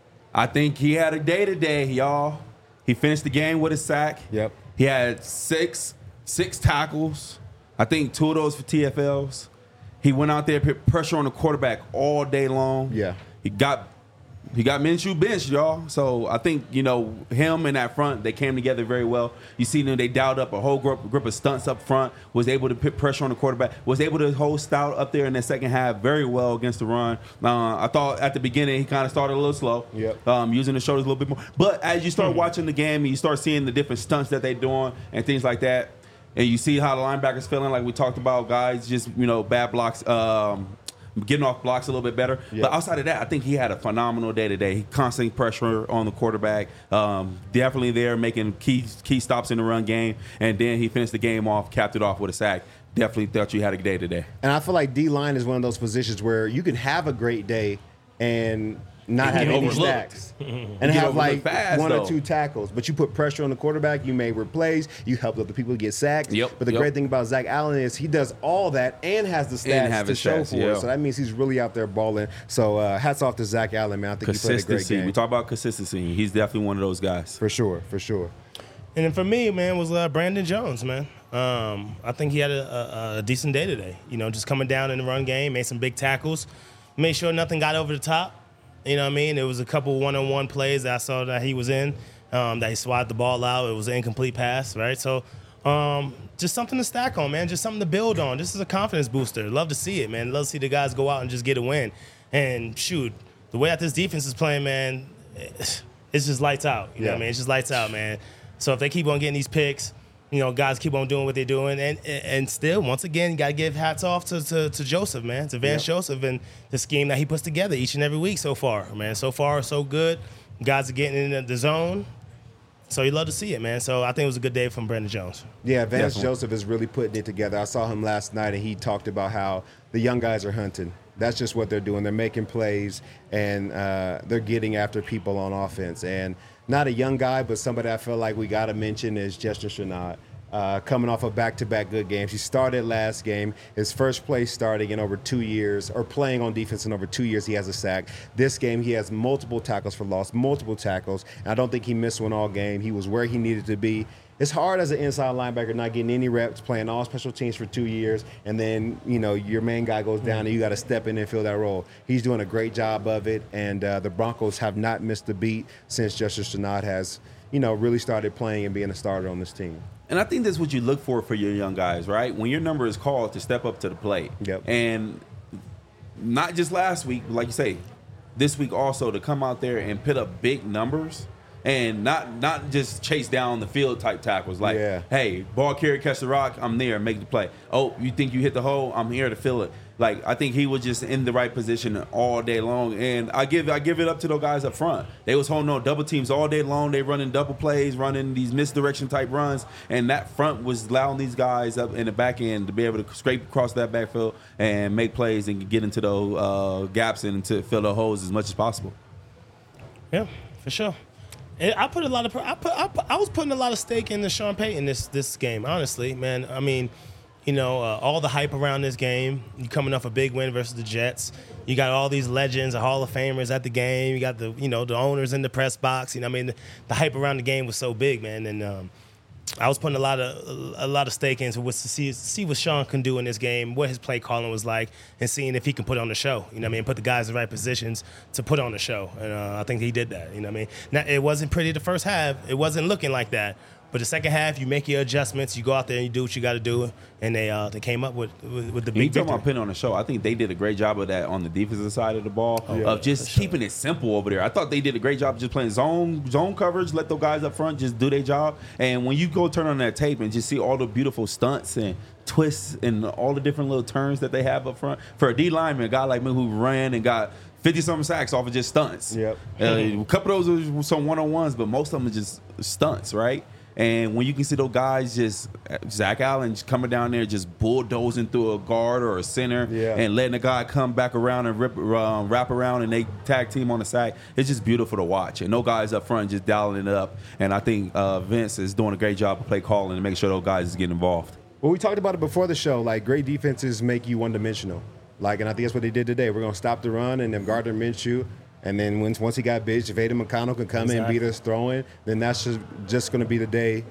I think he had a day today, y'all. He finished the game with a sack. Yep. He had six six tackles. I think two of those for T F Ls. He went out there, put pressure on the quarterback all day long. Yeah. He got he got Minshew benched, y'all. So I think, you know, him and that front, they came together very well. You see them, they dialed up a whole group, group of stunts up front, was able to put pressure on the quarterback, was able to hold Stout up there in the second half very well against the run. Uh, I thought at the beginning he kind of started a little slow, Yep. um, using the shoulders a little bit more. But as you start watching the game and you start seeing the different stunts that they're doing and things like that, and you see how the linebackers feeling, like we talked about, guys, just, you know, bad blocks, um, getting off blocks a little bit better. Yep. But outside of that, I think he had a phenomenal day today. He constant pressure on the quarterback. Um, definitely there making key key stops in the run game. And then he finished the game off, capped it off with a sack. Definitely thought you had a day today. And I feel like D-line is one of those positions where you can have a great day and not have get any overlooked. stacks and get have like overlooked fast, one though. or two tackles. But you put pressure on the quarterback, you made plays, you help other people get sacks. Yep, But the yep. great thing about Zach Allen is he does all that and has the stats have to his show stats, for yeah. it. So that means he's really out there balling. So uh, hats off to Zach Allen, man. I think he played a great Consistency. game. We talk about consistency. He's definitely one of those guys. For sure, for sure. And then for me, man, was uh, Brandon Jones, man. Um, I think he had a, a, a decent day today. You know, just coming down in the run game, made some big tackles, made sure nothing got over the top. You know what I mean? There was a couple one-on-one plays that I saw that he was in, um, that he swatted the ball out. It was an incomplete pass, right? So um, just something to stack on, man. Just something to build on. This is a confidence booster. Love to see it, man. Love to see the guys go out and just get a win. And shoot, the way that this defense is playing, man, it's just lights out. You know Yeah. what I mean? It's just lights out, man. So if they keep on getting these picks, you know, guys keep on doing what they're doing. And and still, once again, you got to give hats off to, to, to Joseph, man, to Vance Yep. Joseph and the scheme that he puts together each and every week so far, man. So far, so good. Guys are getting in the zone. So you love to see it, man. So I think it was a good day from Brandon Jones. Yeah, Vance Definitely. Joseph is really putting it together. I saw him last night, and he talked about how the young guys are hunting. That's just what they're doing. They're making plays, and uh, they're getting after people on offense. And not a young guy, but somebody I feel like we got to mention is Justin Chanad. Uh, coming off of back-to-back good games. He started last game, his first play starting in over two years, or playing on defense in over two years, he has a sack. This game, he has multiple tackles for loss, multiple tackles, and I don't think he missed one all game. He was where he needed to be. It's hard as an inside linebacker not getting any reps, playing all special teams for two years, and then, you know, your main guy goes down and you got to step in and fill that role. He's doing a great job of it, and uh, the Broncos have not missed a beat since Justice Chanad has, you know, really started playing and being a starter on this team. And I think that's what you look for for your young guys, right? When your number is called to step up to the plate. Yep. And not just last week, but like you say, this week also to come out there and put up big numbers and not not just chase down the field type tackles. Like, Yeah. hey, ball carry, catch the rock, I'm there, make the play. Oh, you think you hit the hole? I'm here to fill it. Like, I think he was just in the right position all day long. And I give I give it up to those guys up front. They was holding on double teams all day long. They running double plays, running these misdirection type runs. And that front was allowing these guys up in the back end to be able to scrape across that backfield and make plays and get into those uh, gaps and to fill the holes as much as possible. Yeah, for sure. And I put a lot of I put, I put I was putting a lot of stake in the Sean Payton this this game, honestly, man. I mean, you know, uh, all the hype around this game. You coming off a big win versus the Jets. You got all these legends, the Hall of Famers at the game. You got the you know the owners in the press box. You know, I mean, the, the hype around the game was so big, man. And um, I was putting a lot of a lot of stake into what to see see what Sean can do in this game, what his play calling was like, and seeing if he can put on the show. You know what I mean? Put the guys in the right positions to put on the show. And uh, I think he did that. You know what I mean? Now, it wasn't pretty the first half. It wasn't looking like that. But the second half, you make your adjustments. You go out there and you do what you got to do. And they uh, they came up with with, with the You big talking about victory. putting on the show. I think they did a great job of that on the defensive side of the ball, yeah, of just for sure. keeping it simple over there. I thought they did a great job of just playing zone zone coverage, let those guys up front just do their job. And when you go turn on that tape and just see all the beautiful stunts and twists and all the different little turns that they have up front, for a D lineman, a guy like me who ran and got fifty-something sacks off of just stunts. Yep. Uh, a couple of those were some one-on-ones, but most of them are just stunts, right? And when you can see those guys just, Zach Allen just coming down there just bulldozing through a guard or a center Yeah. and letting the guy come back around and rip, um, wrap around and they tag team on the side, it's just beautiful to watch. And no guys up front just dialing it up. And I think uh, Vince is doing a great job of play calling and making sure those guys is getting involved. Well, we talked about it before the show. Like, great defenses make you one-dimensional. Like, and I think that's what they did today. We're going to stop the run, and then Gardner Minshew. And then once once he got big, Javada McConnell can come in and Exactly. beat us throwing. Then that's just, just going to be the day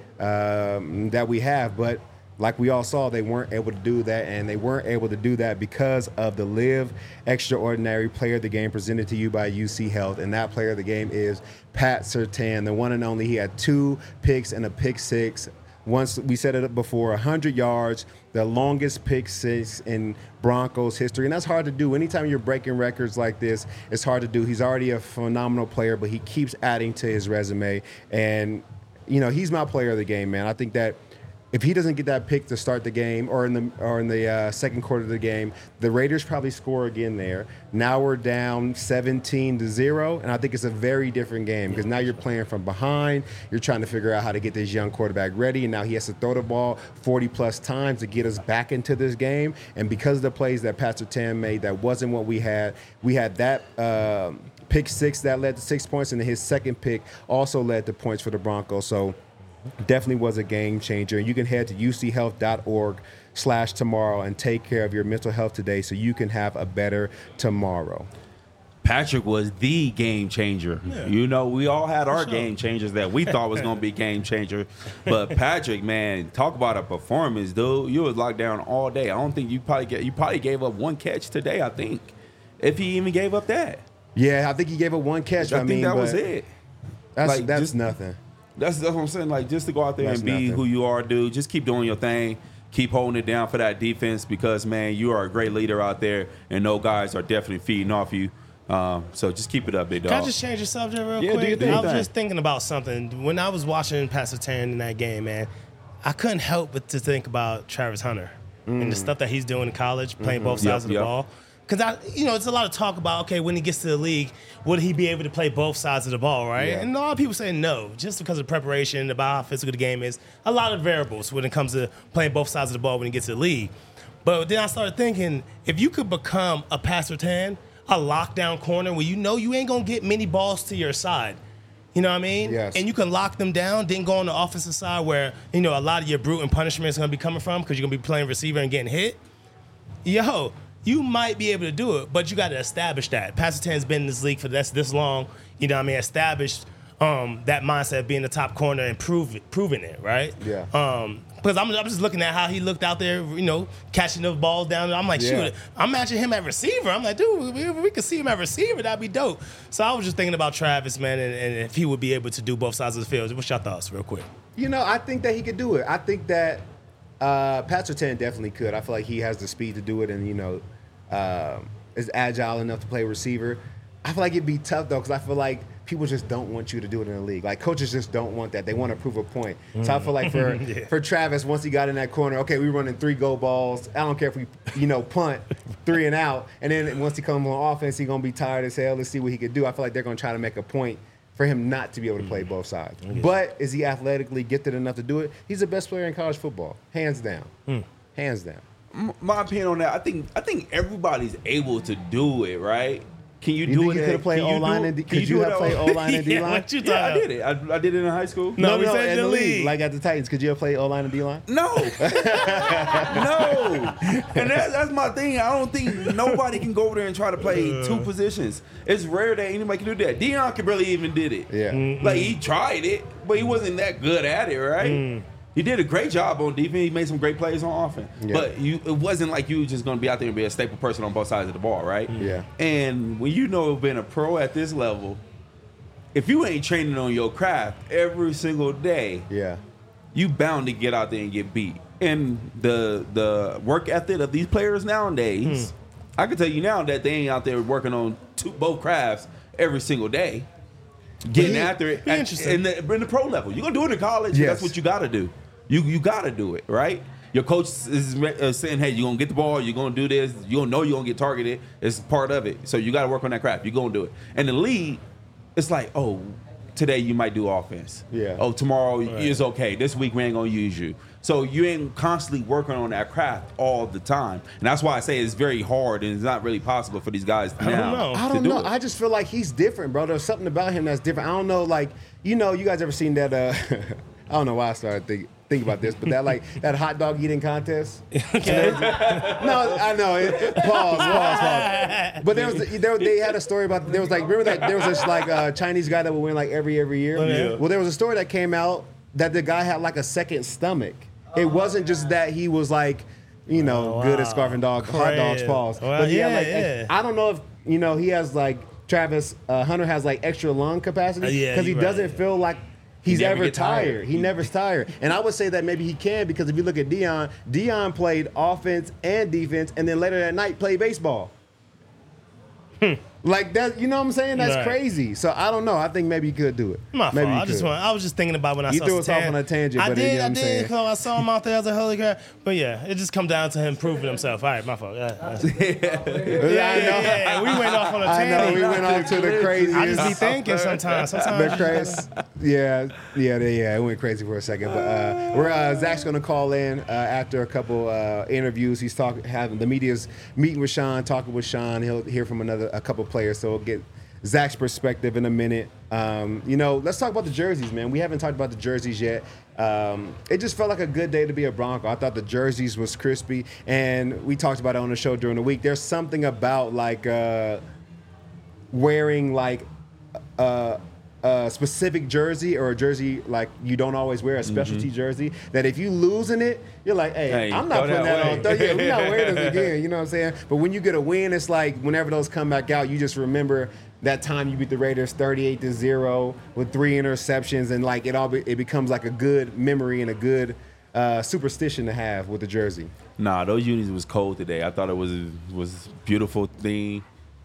um, that we have. But like we all saw, they weren't able to do that, and they weren't able to do that because of the Live Extraordinary Player of the Game presented to you by U C Health. And that player of the game is Pat Surtain, the one and only. He had two picks and a pick six. Once we set it up before, one hundred yards, the longest pick six in Broncos history. And that's hard to do. Anytime you're breaking records like this, it's hard to do. He's already a phenomenal player, but he keeps adding to his resume. And, you know, he's my player of the game, man. I think that if he doesn't get that pick to start the game or in the or in the uh, second quarter of the game, the Raiders probably score again there. Now we're down seventeen to zero, and I think it's a very different game because now you're playing from behind. You're trying to figure out how to get this young quarterback ready, and now he has to throw the ball forty plus times to get us back into this game. And because of the plays that Pat Surtain made, that wasn't what we had. We had that uh, pick six that led to six points, and then his second pick also led to points for the Broncos. So definitely was a game changer. And you can head to U C health dot org slash tomorrow and take care of your mental health today so you can have a better tomorrow. Patrick was the game changer. Yeah. You know, we all had our sure. game changers that we thought was going to be game changer. But Patrick, man, talk about a performance, dude. You was locked down all day. I don't think you probably get, you probably gave up one catch today, I think, if he even gave up that. Yeah, I think he gave it one catch. I, I, think mean, that but was it. That's, Like, that's just- nothing. That's, that's what I'm saying. Like, just to go out there That's and be nothing. who you are, dude. Just keep doing your thing. Keep holding it down for that defense because, man, you are a great leader out there, and those guys are definitely feeding off you. Um, so just keep it up, big dog. Can I just change the subject real Yeah, do quick? your thing. I was just thinking about something. When I was watching Pat Surtain in that game, man, I couldn't help but to think about Travis Hunter and the stuff that he's doing in college, playing both Yep, sides of the yep. ball. Because, I, you know, it's a lot of talk about, okay, when he gets to the league, would he be able to play both sides of the ball, right? Yeah. And a lot of people say no, just because of preparation, about how physical the game is. A lot of variables when it comes to playing both sides of the ball when he gets to the league. But then I started thinking, if you could become a Pat Surtain, a lockdown corner where you know you ain't going to get many balls to your side, you know what I mean? Yes. And you can lock them down, then go on the offensive side where, you know, a lot of your brute and punishment is going to be coming from because you're going to be playing receiver and getting hit. Yo, you might be able to do it, but you got to establish that. Pat Surtain's been in this league for this this long, you know what I mean, established um, that mindset of being the top corner and prove it, proving it, right? Yeah. Um, because I'm, I'm just looking at how he looked out there, you know, catching those balls down. I'm like, Yeah. shoot, I'm matching him at receiver. I'm like, dude, we, we could see him at receiver. That'd be dope. So I was just thinking about Travis, man, and, and if he would be able to do both sides of the field. What's your thoughts, real quick? You know, I think that he could do it. I think that uh, Pat Surtain definitely could. I feel like he has the speed to do it and, you know, um, is agile enough to play receiver. I feel like it'd be tough, though, because I feel like people just don't want you to do it in the league. Like, coaches just don't want that. They want to prove a point. So I feel like for Yeah. for Travis, once he got in that corner, okay, we running three go balls. I don't care if we, you know, punt three and out. And then once he comes on offense, he's going to be tired as hell. Let's see what he could do. I feel like they're going to try to make a point for him not to be able to play both sides. But is he athletically gifted enough to do it? He's the best player in college football, hands down. Hands down. M- My opinion on that, I think I think everybody's able to do it, right? Can you, You do think it? you at- could have played can you O-line do- and D- can could you do have it played at- O-line and Yeah, D-line? what you Yeah, I talking did it. I, I did it in high school. No, we said in the the league. league. Like at the Titans, could you have played O-line and D-line? No, no, and that, that's my thing. I don't think nobody can go over there and try to play two positions. It's rare that anybody can do that. Deion could barely even did it. Yeah. Like he tried it, but he wasn't that good at it, right? He He did a great job on defense. He made some great plays on offense. Yeah. But you, it wasn't like you were just going to be out there and be a staple person on both sides of the ball, right? Yeah. And when you know being a pro at this level, if you ain't training on your craft every single day, Yeah. you bound to get out there and get beat. And the the work ethic of these players nowadays, I can tell you now that they ain't out there working on two, both crafts every single day. Getting he- after it be at- interesting. in the, in the pro level. You're going to do it in college. Yes. That's what you got to do. You you got to do it, right? Your coach is uh, saying, hey, you're going to get the ball. You're going to do this. You don't know you're going to get targeted. It's part of it. So you got to work on that craft. You're going to do it. And the league, it's like, oh, today you might do offense. Yeah. Oh, tomorrow is okay. This week we ain't going to use you. So you ain't constantly working on that craft all the time. And that's why I say it's very hard and it's not really possible for these guys I don't now know. I to don't do know. it. I just feel like he's different, bro. There's something about him that's different. I don't know, like, you know, you guys ever seen that, uh, I don't know why I started thinking think about this, but that like that hot dog eating contest. Okay. No, I know. It, pause, pause, pause. But there was there, they had a story about there was like remember that there was this like uh, Chinese guy that would win like every every year. yeah. Well, there was a story that came out that the guy had like a second stomach. It wasn't just that he was like, you know, Oh, good at wow. scarfing dog hot dogs. Crazy. Pause. Well, but he had yeah, like yeah. I don't know if you know he has like Travis uh, Hunter has like extra lung capacity Uh, yeah, because he you're right. doesn't feel like. He's never ever get tired. tired. He never's tired. And I would say that maybe he can because if you look at Dion, Dion played offense and defense, and then later that night played baseball. Like that, you know what I'm saying? That's Right. crazy. So I don't know. I think maybe he could do it. My maybe fault. he I just could. want, I was just thinking about when I You saw threw us off Satan. on a tangent, I but did, you know what I I'm did, saying? because I saw him out there as a holy crap. But yeah, it just come down to him proving himself. All right, my fault. Yeah, yeah, Yeah, yeah, I know. yeah. We went off on a I know. tangent. We went off to the craziest. I just be thinking sometimes. The Sometimes. crazy, yeah, yeah, they- yeah. It went crazy for a second, but uh, we're uh, Zach's gonna call in uh, after a couple uh, interviews. He's talking, having the media's meeting with Sean, talking with Sean. He'll hear from another a couple players, so we'll get Zach's perspective in a minute. Um, you know, let's talk about the jerseys, man. We haven't talked about the jerseys yet. Um, it just felt like a good day to be a Bronco. I thought the jerseys was crispy, and we talked about it on the show during the week. There's something about like uh, wearing like a, a specific jersey or a jersey like you don't always wear, a specialty jersey, that if you losing it, you're like, hey, Hey, I'm not throw putting that that, away. on. Yeah, we're not wearing this again. You know what I'm saying? But when you get a win, it's like whenever those come back out, you just remember that time you beat the Raiders thirty-eight to zero with three interceptions, and like it all be, it becomes like a good memory and a good uh, superstition to have with the jersey. Nah, those unis was cold today. I thought it was was beautiful thing.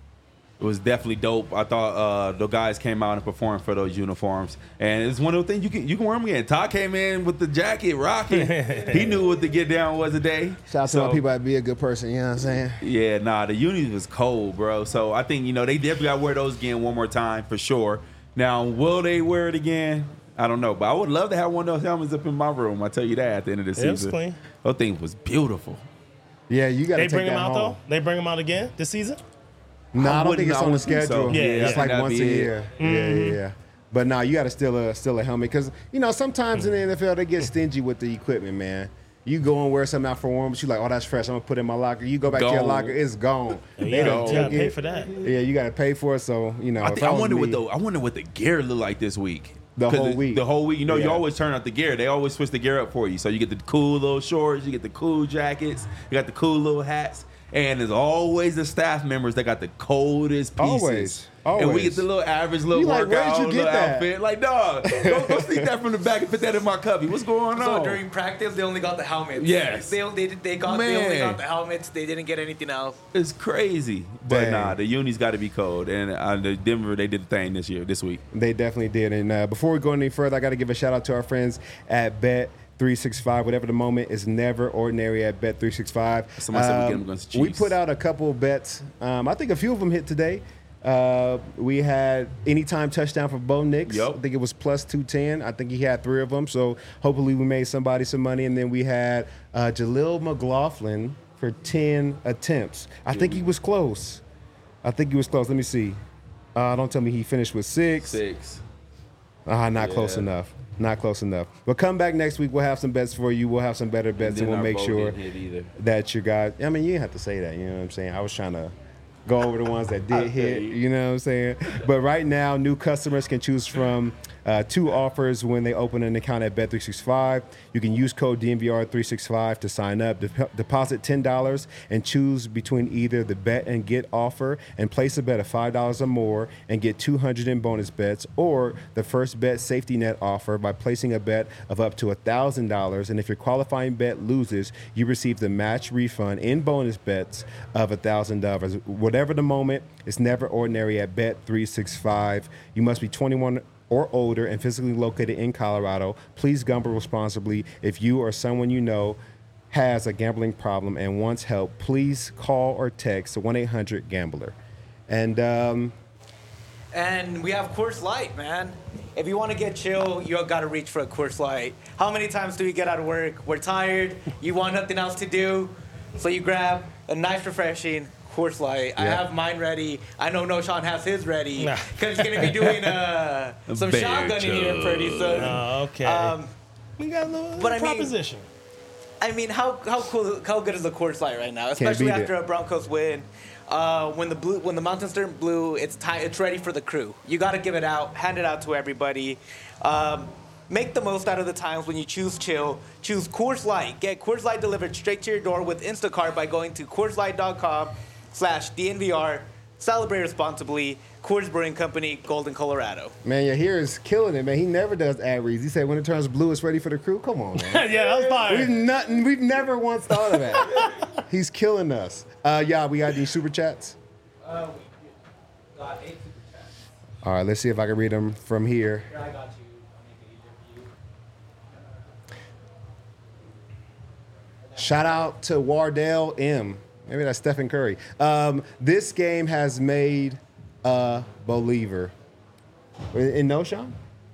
It was definitely dope. I thought uh, the guys came out and performed for those uniforms, and it's one of the things you can you can wear them again. Todd came in with the jacket, rocking. He knew what the get down was today. Shout out to my people that be a good person. You know what I'm saying? Yeah, nah, the unis was cold, bro. So I think you know they definitely got to wear those again one more time for sure. Now, will they wear it again? I don't know, but I would love to have one of those helmets up in my room. I tell you that at the end of the It was season, clean. those things was beautiful. Yeah, you got to They take bring that him out home. though. They bring him out again this season. No, I I don't think wouldn't- it's I on the wouldn't think so. schedule. Yeah, it's yeah. like That'd once be a it. year. Yeah, yeah, yeah. But no, you got to steal a steal a helmet because you know sometimes in the N F L they get stingy with the equipment, man. You go and wear something out for warm, but you like, oh, that's fresh. I'm gonna put it in my locker. You go back to your Gone. locker, it's gone. You They don't gotta, you gotta take pay it. for that. Yeah, you got to pay for it. So you know, I, if think, I was wonder what me- the I wonder what the gear look like this week. The 'Cause whole week. The whole week. You know, you Yeah. always turn out the gear. They always switch the gear up for you. So you get the cool little shorts, you get the cool jackets, you got the cool little hats, and there's always the staff members that got the coldest pieces. Always. And we Always. get the little average little You like, workout, where'd you get little that? outfit. Like, dog, go, go sneak that from the back and put that in my cubby. What's going on? So during practice, they only got the helmets. Yes. They they they got they only Man. got the helmets. They didn't get anything else. It's crazy. But Dang. nah, the unis got to be cold. And uh, the Denver, they did the thing this year, this week. They definitely did. And uh, before we go any further, I got to give a shout out to our friends at Bet three sixty-five. Whatever the moment is never ordinary at Bet three sixty-five. Somebody said we get them against the We Chiefs. put out a couple of bets. Um, I think a few of them hit today. Uh, we had anytime touchdown for Bo Nix. Yep. I think it was plus two ten. I think he had three of them. So hopefully we made somebody some money. And then we had uh, Jaleel McLaughlin for ten attempts. I think he was close. I think he was close. Let me see. Uh, don't tell me he finished with six. Six. Ah, not Yeah. close enough. Not close enough. But come back next week. We'll have some bets for you. We'll have some better bets, and, then we'll our make vote sure didn't hit either. that you got. I mean, you didn't have to say that. You know what I'm saying? I was trying to go over the ones that I did hit. feel you. You know what I'm saying? But right now, new customers can choose from uh, two offers when they open an account at Bet three sixty-five. You can use code D N V R three sixty-five to sign up. Dep- deposit ten dollars and choose between either the bet and get offer and place a bet of five dollars or more and get two hundred in bonus bets, or the first bet safety net offer by placing a bet of up to one thousand dollars. And if your qualifying bet loses, you receive the match refund in bonus bets of one thousand dollars. Whatever the moment, it's never ordinary at Bet three sixty-five. You must be twenty-one or older and physically located in Colorado. Please gamble responsibly. If you or someone you know has a gambling problem and wants help, please call or text one eight hundred gambler. And um, And we have Coors Light, man. If you want to get chill, you got to reach for a Coors Light. How many times do we get out of work? We're tired. You want nothing else to do, so you grab a nice, refreshing Coors Light. I Yeah. have mine ready. I know No Sean has his ready Nah. because he's gonna be doing uh, some Bear shotgunning here chug. pretty soon. Oh, okay. Um, we got a little, but I mean- proposition. I mean, how how cool, how good is the Coors Light right now? Especially beat after it. a Broncos win. Uh, when the blue, when the mountains turn blue, it's time. It's ready for the crew. You got to give it out, hand it out to everybody. Um, make the most out of the times when you choose chill. Choose Coors Light. Get Coors Light delivered straight to your door with Instacart by going to Coors Light dot com slash D N V R. Celebrate responsibly. Coors Brewing Company, Golden, Colorado. man, your hair is killing it, man. He never does ad reads. He said when it turns blue, it's ready for the crew. Come on, man. Yeah, that was fire. We've nothing. We've never once thought of that. He's killing us. Uh, yeah, we got these super chats. Uh, got eight super chats. All right, let's see if I can read them from here. Here, I got you. I'll make it easier for you. Shout out to Wardell M. Maybe that's Stephen Curry. Um, this game has made a believer. In no, Sean?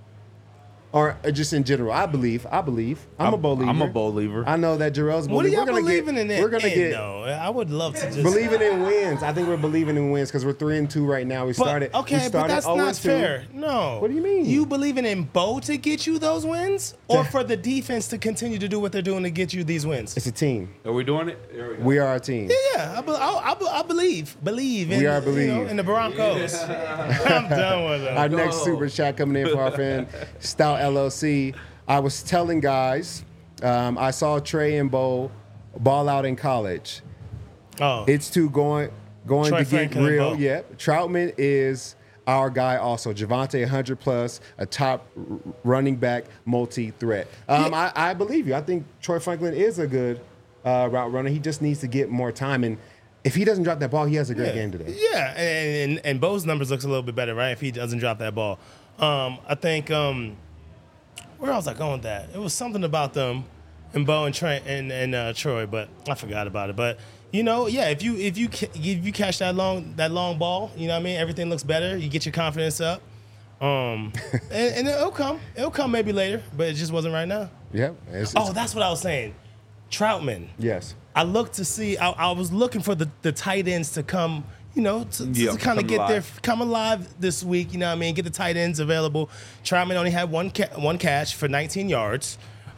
Or just in general? I believe. I believe. I'm, a I'm- believer. I'm a believer. I know that Jarrell's a What are believer. y'all We're gonna believing get, in that We're gonna end, get though? I would love to just believing in wins. I think we're believing in wins because we're three and two right now. We But, started. okay, we but started that's oh not and two. fair. No. What do you mean? You believing in Bo to get you those wins, or To- for the defense to continue to do what they're doing to get you these wins? It's a team. Are we doing it? There we go. We are a team. Yeah, I, be, I, I, be- I believe, believe in, We are you know, believe. in the Broncos. I'm done with them. Our next super chat coming in from our friend Stout L L C. I was telling guys, um, I saw Trey and Bo ball out in college. Oh, It's too going going Troy to get Franklin and real. Bo. Yep. Troutman is our guy also. Javante one hundred plus, a top r- running back, multi-threat. Um, I, I believe you. I think Troy Franklin is a good uh, route runner. He just needs to get more time. And if he doesn't drop that ball, he has a great yeah. game today. Yeah, and, and and Bo's numbers looks a little bit better, right? If he doesn't drop that ball, um, I think. Um, where was I going with that? It was something about them, and Bo and Trey and and uh, Troy, but I forgot about it. But you know, yeah, if you if you ca- if you catch that long that long ball, you know what I mean. Everything looks better. You get your confidence up, um, and, and it'll come. It'll come maybe later, but it just wasn't right now. Yep. It's- Oh, it's- that's what I was saying. Troutman. yes. I looked to see. I, I was looking for the, the tight ends to come. You know, to, to Yeah, kind of come get their alive. come alive this week. You know what I mean? Get the tight ends available. Troutman only had one ca- one catch for nineteen yards.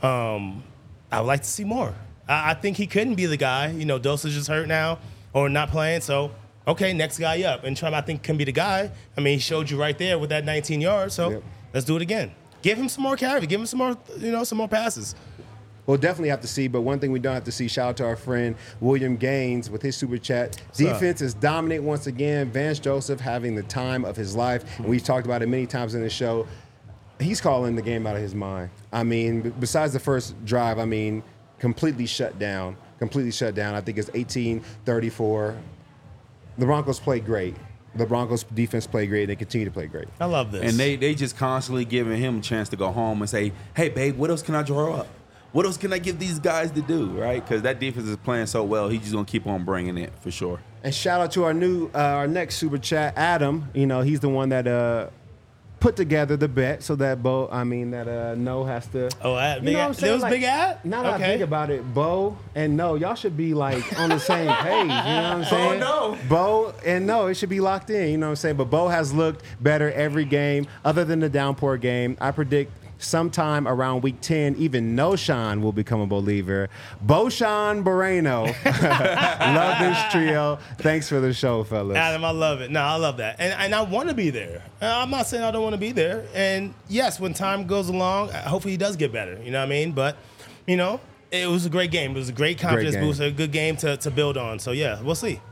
Um, I would like to see more. I, I think he couldn't be the guy. You know, Dosage is hurt now or not playing. So okay, next guy up. And Troutman I think can be the guy. I mean, he showed you right there with that nineteen yards. So Yep. let's do it again. Give him some more carry. Give him some more. You know, some more passes. We'll definitely have to see, but one thing we don't have to see, shout out to our friend William Gaines with his super chat. Defense is dominant once again. Vance Joseph having the time of his life. And we've talked about it many times in the show. He's calling the game out of his mind. I mean, b- besides the first drive, I mean, completely shut down. Completely shut down. I think it's eighteen thirty-four. The Broncos played great. The Broncos defense played great. And they continue to play great. I love this. And they they just constantly giving him a chance to go home and say, hey, babe, what else can I draw up? What else can I give these guys to do, right? Because that defense is playing so well. He's just going to keep on bringing it for sure. And shout out to our new, uh, our next super chat, Adam. You know, he's the one that uh, put together the bet so that Bo, I mean, that uh, No has to. Oh, ad, You big know what I'm ad. saying? There was Like, big ad? Now that I Okay. think about it, Bo and No, y'all should be like on the same page. You know what I'm saying? No. Bo and No, it should be locked in. You know what I'm saying? But Bo has looked better every game other than the downpour game. I predict sometime around week ten, even Noshan will become a believer. Boshan Moreno. Love this trio. Thanks for the show, fellas. Adam, I love it. No, I love that. And, and I want to be there. I'm not saying I don't want to be there. And yes, when time goes along, hopefully he does get better. You know what I mean? But, you know, it was a great game. It was a great confidence great booster, a good game to, to build on. So, yeah, we'll see.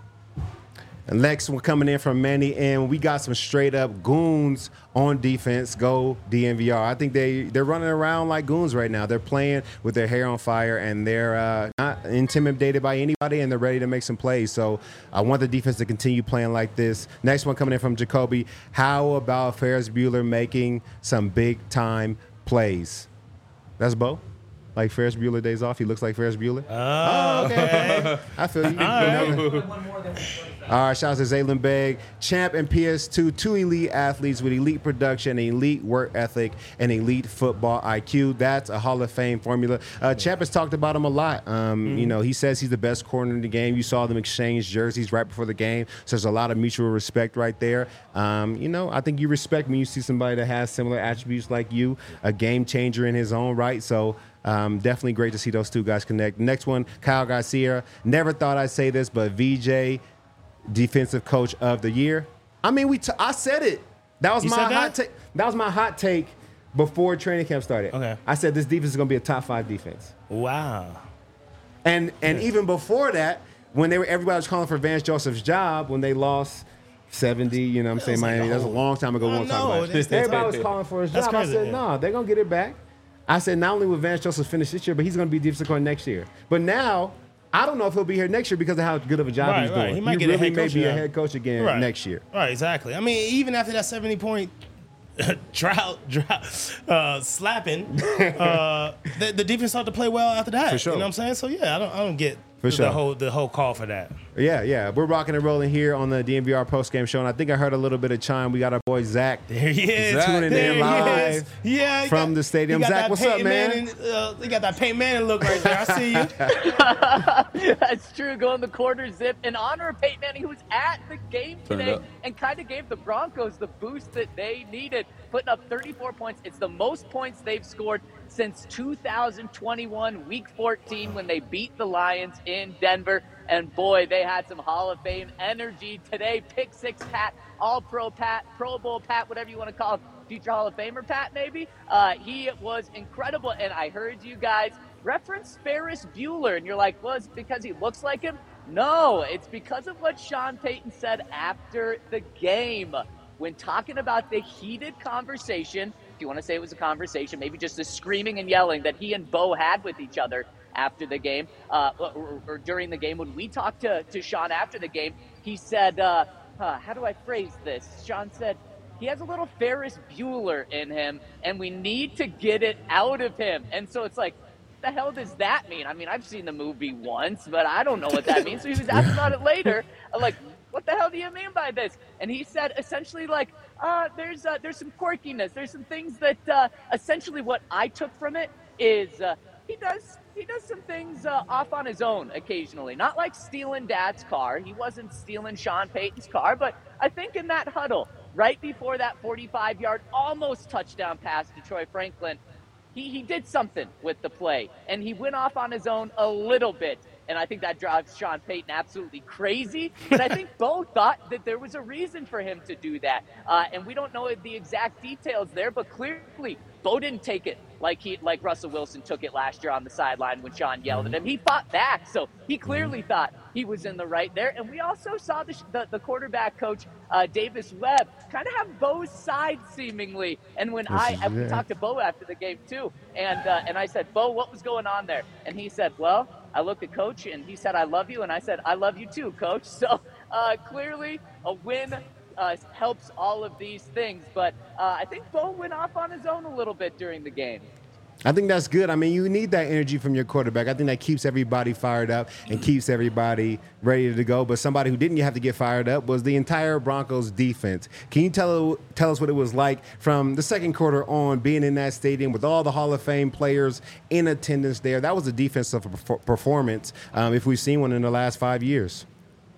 And next one coming in from Manny, and we got some straight up goons on defense. Go D N V R. I think they they're running around like goons right now. They're playing with their hair on fire, and they're uh, not intimidated by anybody, and they're ready to make some plays. So I want the defense to continue playing like this. Next one coming in from Jacoby. How about Ferris Bueller making some big time plays? That's Bo. Like Ferris Bueller Days Off. He looks like Ferris Bueller. Oh, okay. I feel you. All All right, shout out to Zaylin Beg, Champ and P S two, two elite athletes with elite production, elite work ethic, and elite football I Q. That's a Hall of Fame formula. Uh, Champ has talked about him a lot. Um, mm-hmm. You know, he says he's the best corner in the game. You saw them exchange jerseys right before the game, so there's a lot of mutual respect right there. Um, you know, I think you respect when you see somebody that has similar attributes like you, a game changer in his own right. So um, definitely great to see those two guys connect. Next one, Kyle Garcia. Never thought I'd say this, but V J, Defensive Coach of the Year. I mean, we. T- I said it. That was You my said that? hot take. That was my hot take before training camp started. Okay. I said this defense is going to be a top five defense. Wow. And and even before that, when they were everybody was calling for Vance Joseph's job when they lost seventy, you know what I'm saying, was like Miami. a That was a whole- long time ago. We I won't talk know, about it. that's- Everybody was calling for his That's job. crazy, I said, yeah. no, they're going to get it back. I said, not only will Vance Joseph finish this year, but he's going to be defensive coordinator next year. But now, I don't know if he'll be here next year because of how good of a job Right, he's right. doing. He might get a really head may coach be a job. head coach again Right. next year. Right, exactly. I mean, even after that seventy-point drought, drought uh, slapping, uh, the, the defense started to play well after that. For sure. You know what I'm saying? So, yeah, I don't, I don't get For the, sure. the whole the whole call for that. Yeah, yeah. We're rocking and rolling here on the D N V R postgame show, and I think I heard a little bit of chime. We got our boy Zach There he is. Zach. tuning There in he live is. Yeah, he from got- the stadium. he got Zach, that what's up, Peyton man? Manning, uh, he got that Peyton Manning look right there. I see you. That's true. Going the quarter zip in honor of Peyton Manning, who was at the game Turn it today up. and kind of gave the Broncos the boost that they needed, putting up thirty-four points. It's the most points they've scored since two thousand twenty-one, week fourteen, when they beat the Lions in Denver. And boy, they had some Hall of Fame energy today. Pick six Pat, All-Pro Pat, Pro Bowl Pat, whatever you want to call him, future Hall of Famer Pat, maybe. Uh, he was incredible. And I heard you guys reference Ferris Bueller, and you're like, well, it's because he looks like him? No, it's because of what Sean Payton said after the game. When talking about the heated conversation, if you want to say it was a conversation, maybe just the screaming and yelling that he and Bo had with each other after the game, uh, or, or during the game. When we talked to, to Sean after the game, he said, uh, huh, how do I phrase this? Sean said, he has a little Ferris Bueller in him, and we need to get it out of him. And so it's like, what the hell does that mean? I mean, I've seen the movie once, but I don't know what that means. So he was asked about it later. I'm like, what the hell do you mean by this? And he said essentially like, uh, there's uh, there's some quirkiness. There's some things that uh, essentially what I took from it is uh, he does he does some things uh, off on his own occasionally. Not like stealing Dad's car. He wasn't stealing Sean Payton's car, but I think in that huddle, right before that forty-five-yard almost touchdown pass to Troy Franklin, he, he did something with the play, and he went off on his own a little bit. And I think that drives Sean Payton absolutely crazy. But I think Bo thought that there was a reason for him to do that. Uh, and we don't know the exact details there, but clearly Bo didn't take it like he like Russell Wilson took it last year on the sideline when Sean yelled at him. He fought back, so he clearly thought he was in the right there. And we also saw the the, the quarterback coach, uh, Davis Webb, kind of have Bo's side seemingly. And when I, I we talked to Bo after the game too, and uh, and I said, Bo, what was going on there? And he said, well, I looked at Coach, and he said, I love you. And I said, I love you too, Coach. So uh, clearly a win uh, helps all of these things. But uh, I think Bo went off on his own a little bit during the game. I think that's good. I mean, you need that energy from your quarterback. I think that keeps everybody fired up and keeps everybody ready to go. But somebody who didn't have to get fired up was the entire Broncos defense. Can you tell tell us what it was like from the second quarter on, being in that stadium with all the Hall of Fame players in attendance there? That was a defensive performance, um, if we've seen one in the last five years.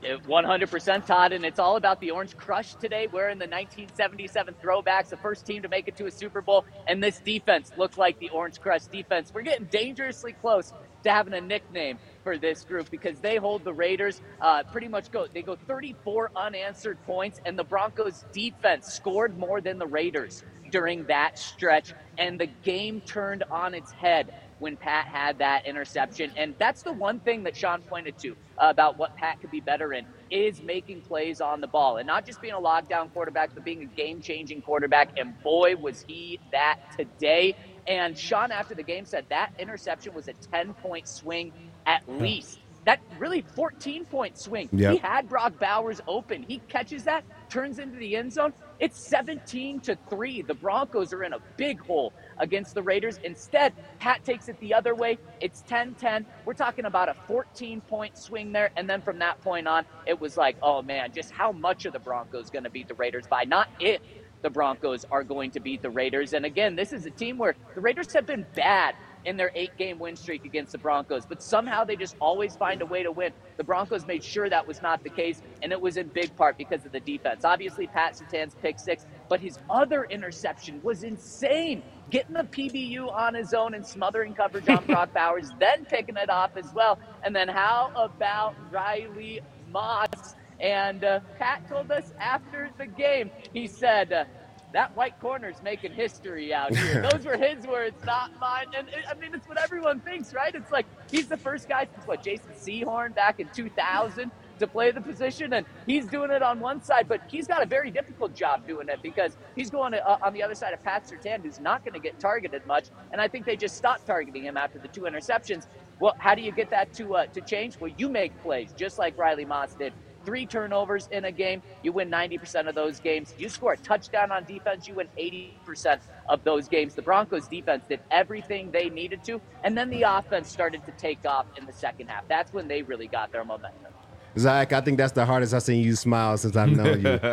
one hundred percent, Todd, and it's all about the Orange Crush today. We're in the nineteen seventy-seven throwbacks, the first team to make it to a Super Bowl, and this defense looked like the Orange Crush defense. We're getting dangerously close to having a nickname for this group because they hold the Raiders uh, pretty much go. They go thirty-four unanswered points, and the Broncos defense scored more than the Raiders during that stretch, and the game turned on its head when Pat had that interception. And that's the one thing that Sean pointed to uh, about what Pat could be better in is making plays on the ball and not just being a lockdown quarterback, but being a game-changing quarterback. And boy, was he that today. And Sean, after the game, said that interception was a ten-point swing at least. That really fourteen-point swing. Yep. He had Brock Bowers open. He catches that, turns into the end zone. It's seventeen to three. The Broncos are in a big hole against the Raiders. Instead, Pat takes it the other way. It's ten ten. We're talking about a fourteen-point swing there. And then from that point on, it was like, oh, man, just how much are the Broncos going to beat the Raiders by? Not if the Broncos are going to beat the Raiders. And again, this is a team where the Raiders have been bad in their eight-game win streak against the Broncos, but somehow they just always find a way to win. The Broncos made sure that was not the case, and it was in big part because of the defense. Obviously, Pat Surtain's pick six, but his other interception was insane. Getting the P B U on his own and smothering coverage on Brock Bowers, then picking it off as well. And then how about Riley Moss? And uh, Pat told us after the game, he said, uh, that white corner's making history out here. Those were his words, not mine. And it, I mean, it's what everyone thinks, right? It's like he's the first guy since, what, Jason Sehorn back in two thousand to play the position, and he's doing it on one side, but he's got a very difficult job doing it because he's going to, uh, on the other side of Pat Surtain, who's not going to get targeted much, and I think they just stopped targeting him after the two interceptions. Well, how do you get that to uh, to change? Well, you make plays, just like Riley Moss did. Three turnovers in a game, you win ninety percent of those games. You score a touchdown on defense, you win eighty percent of those games. The Broncos defense did everything they needed to, and then the offense started to take off in the second half. That's when they really got their momentum. Zach, I think that's the hardest I've seen you smile since I've known you.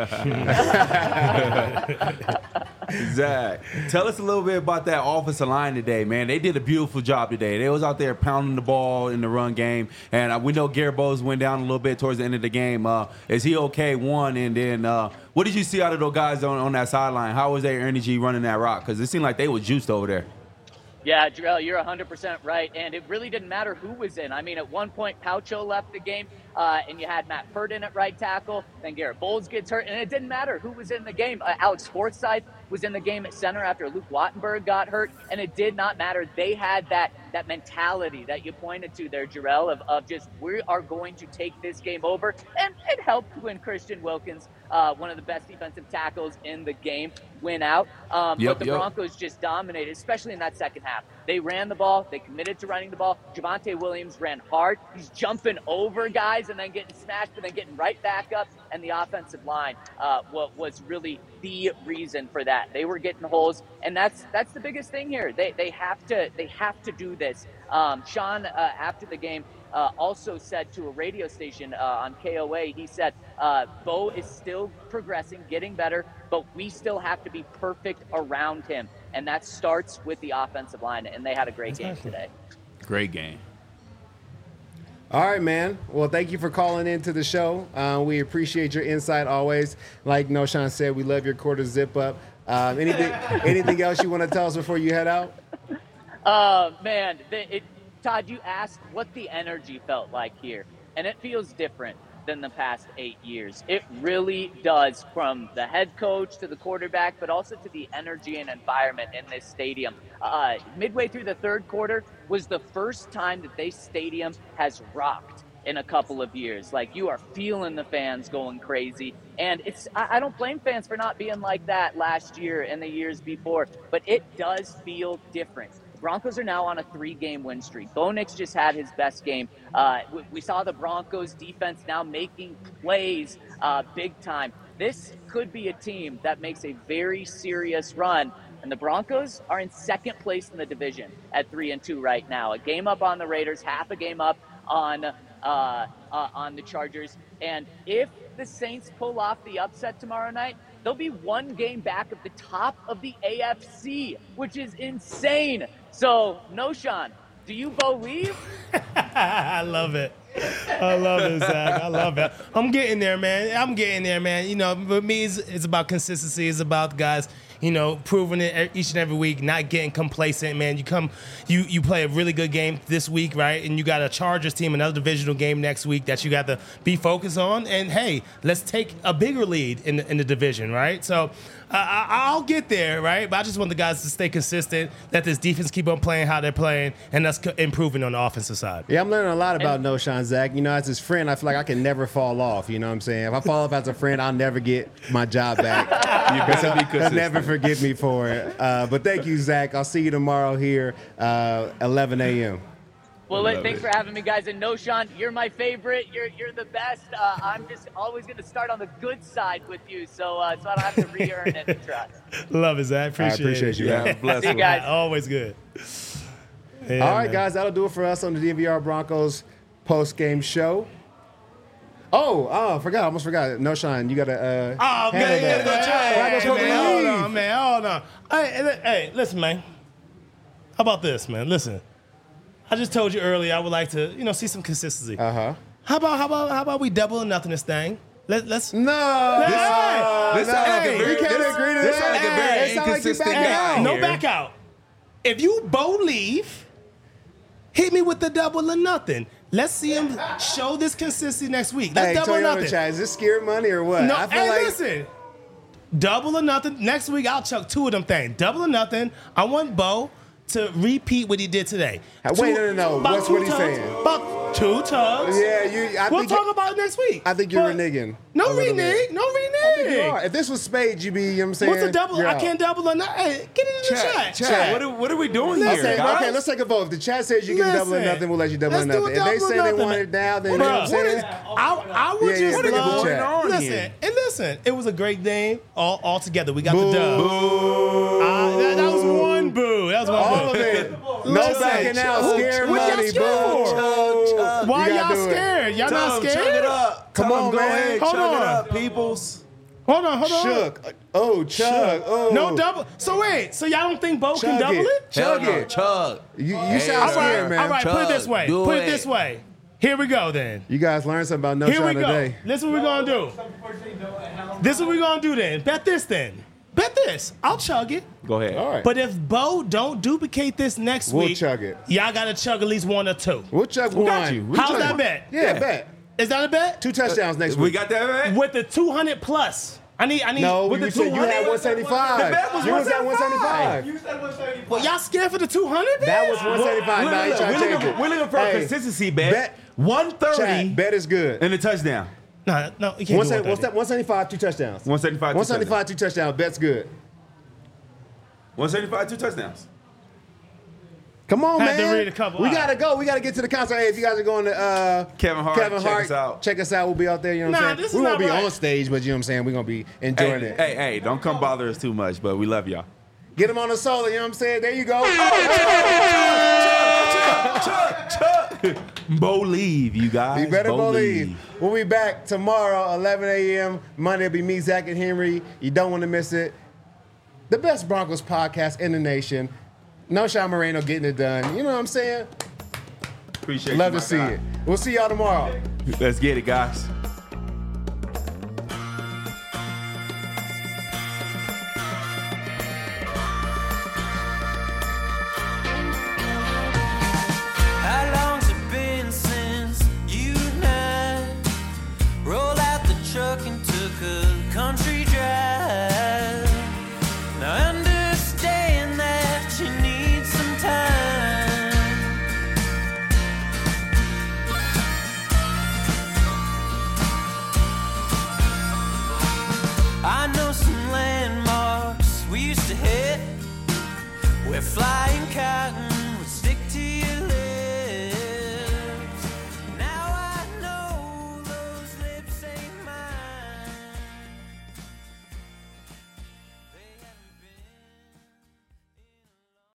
Zach, tell us a little bit about that offensive line today, man. They did a beautiful job today. They was out there pounding the ball in the run game, and uh, we know Garrett Bowles went down a little bit towards the end of the game. Uh, is he okay? One, and then uh, what did you see out of those guys on, on that sideline? How was their energy running that rock? Because it seemed like they were juiced over there. Yeah, Jarrell, you're one hundred percent right, and it really didn't matter who was in. I mean, at one point, Paucho left the game, uh, and you had Matt Pert in at right tackle, then Garrett Bowles gets hurt, and it didn't matter who was in the game. Uh, Alex Forsythe was in the game at center after Luke Wattenberg got hurt, and it did not matter. They had that that mentality that you pointed to there, Jarrell, of, of just we are going to take this game over, and it helped when Christian Wilkins, uh, one of the best defensive tackles in the game, went out. Um, yep, but the yep. Broncos just dominated, especially in that second half. They ran the ball. They committed to running the ball. Javonte Williams ran hard. He's jumping over guys and then getting smashed, but then getting right back up. And the offensive line uh, was really the reason for that. They were getting holes, and that's that's the biggest thing here. They they have to they have to do this. Um, Sean, uh, after the game, uh, also said to a radio station uh, on K O A, he said, uh, Bo is still progressing, getting better, but we still have to be perfect around him. And that starts with the offensive line, and they had a great game today. Great game. All right, man. Well, thank you for calling into the show. Uh, we appreciate your insight always. Like Noshawn said, we love your quarter zip up. Um, anything anything else you want to tell us before you head out? Uh, man, the, it, Todd, you asked what the energy felt like here, and it feels different than the past eight years. It really does, from the head coach to the quarterback, but also to the energy and environment in this stadium. Uh, midway through the third quarter was the first time that this stadium has rocked in a couple of years. Like, you are feeling the fans going crazy. And it's I, I don't blame fans for not being like that last year and the years before, but it does feel different. Broncos are now on a three-game win streak. Bo Nix just had his best game. Uh, we, we saw the Broncos defense now making plays uh, big time. This could be a team that makes a very serious run. And the Broncos are in second place in the division at three and two right now. A game up on the Raiders, half a game up on uh, uh, on the Chargers. And if the Saints pull off the upset tomorrow night, they'll be one game back at the top of the A F C, which is insane. So, Noshawn, Do you believe? I love it. I love it, Zach. I love it. I'm getting there, man. I'm getting there, man. You know, for me, it's, it's about consistency. It's about guys, you know, proving it each and every week, not getting complacent, man. You come, you you play a really good game this week, right? And you got a Chargers team, another divisional game next week that you got to be focused on. And hey, let's take a bigger lead in the, in the division, right? So uh, I, I'll get there, right? But I just want the guys to stay consistent, let this defense keep on playing how they're playing, and us co- improving on the offensive side. Yeah, I'm learning a lot about Noshawn, Zach. You know, as his friend, I feel like I can never fall off. You know what I'm saying? If I fall off as a friend, I'll never get my job back. You better be He'll consistent. never forgive me for it. Uh, but thank you, Zach. I'll see you tomorrow here, uh, eleven a.m. Well, Love thanks it. for having me, guys. And Noshawn, you're my favorite. You're you're the best. Uh, I'm just always going to start on the good side with you, so uh, so I don't have to re-earn any trust. Love it, Zach. Appreciate, I appreciate it. you, Yeah, man. bless See you him. guys. Always good. Yeah, All right, man. guys, that'll do it for us on the D N V R Broncos post-game show. Oh, oh, I forgot. I almost forgot. Noshawn, you got to uh, Oh, handle man, that. you gotta go check. Right before we man, hold leave. on, man. Hold on. Hey, hey, hey, listen, man. How about this, man? Listen. I just told you earlier I would like to, you know, see some consistency. Uh-huh. How about how about how about we double or nothing this thing? Let, let's No. Hey, This sounds like a hey, very, we can't this, agree to this that. sounds like a very Hey, it sound like you inconsistent back guy out. no here. back out. If you both leave, hit me with the double or nothing. Let's see him show this consistency next week. Let's Hey, double or Toyota nothing. chat, is this scared money or what? No, I feel hey, like listen. Double or nothing. Next week, I'll chuck two of them things. Double or nothing. I want Bo to repeat what he did today. Wait, Two- no, no, no. about What's two what he's tugs, saying? About two tugs. Yeah, you. I We'll think talk about it next week. I think you're But- reneging. No a little renege. bit. No renege. I think you are. If this was Spades, you'd be. You know what I'm saying? What's a double? You're I out. can't double or not. Hey, get it in the Chat, chat. chat. What, are, what are we doing Okay, here, okay, guys? let's take a vote. If the chat says you can double or Listen, nothing, we'll let you double or let's do nothing. a If they double or say they nothing, want man. it down, then you Bruh, know what I'm saying? I, I would Yeah, yeah, just what is love. going on listen, here? and listen, it was a great game all, all together. We got Boo. the dub. Uh, that, that was one boo. That was one All boo. of it. No Listen, backing out. who- Scared what y'all money, scared boo. for? Why You gotta y'all do it. scared? Y'all not Tell 'em, chug scared? it up. Come Tell 'em, on, go man. ahead, Hold chug it on. up, peoples. Hold on, hold on. Shook. Oh, chug. Oh. No double. So wait, so y'all don't think Bo can Chug double it. it? Chug Hell no, it. chug. You, you Hey, sound All scared, right, man. all right. Put it this way. Do Put it it. this way. Here we go then. You guys learned something about No Here we Shot go. today. This is what we're gonna do. This is what we're gonna do then. Bet this then. Bet this. I'll chug it. Go ahead. All right. But if Bo don't duplicate this next We'll week, chug it. y'all gotta chug at least one or two. We'll chug one. got you. We How's chug that it. bet? Yeah, bet. Is that a bet? Two touchdowns next We week. got that right? With the two hundred plus. I need, I need, No, with you the said you two hundred. had one seventy-five. The bet was you was at one one seventy-five. seventy-five. Well, y'all scared for the two hundred? That was one seventy-five. We're Now you looking, trying to we're change looking, it. we're looking for Hey, a consistency bet. bet- one thirty Chat, bet is good. and a touchdown. No, no, you can't One do seven- one what's that? one seventy-five, two touchdowns. one seventy-five, one seventy-five, two touchdowns. Bet's good. one seventy-five, two touchdowns. Come on, Had to man. read a couple. We All right. gotta go. We gotta get to the concert. Hey, if you guys are going to uh, Kevin Hart, Kevin check Hart, us out. check us out. We'll be out there. You know what Nah, I'm this saying? is We won't not be right. on stage, but you know what I'm saying. We're gonna be enjoying Hey, it. hey, hey, don't come bother us too much, but we love y'all. Get them on the solo. You know what I'm saying? There you go. Believe, you guys. You better believe. We'll be back tomorrow, eleven a.m. Monday will be me, Zach, and Henry. You don't want to miss it. The best Broncos podcast in the nation. No Sean Moreno getting it done. You know what I'm saying? Appreciate Love you, to see my guy. it. We'll see y'all tomorrow. Let's get it, guys. How long's it been since you and I rolled out the truck and took a country drive? Now I understand that you need some time. I know some landmarks we used to hit where flying cars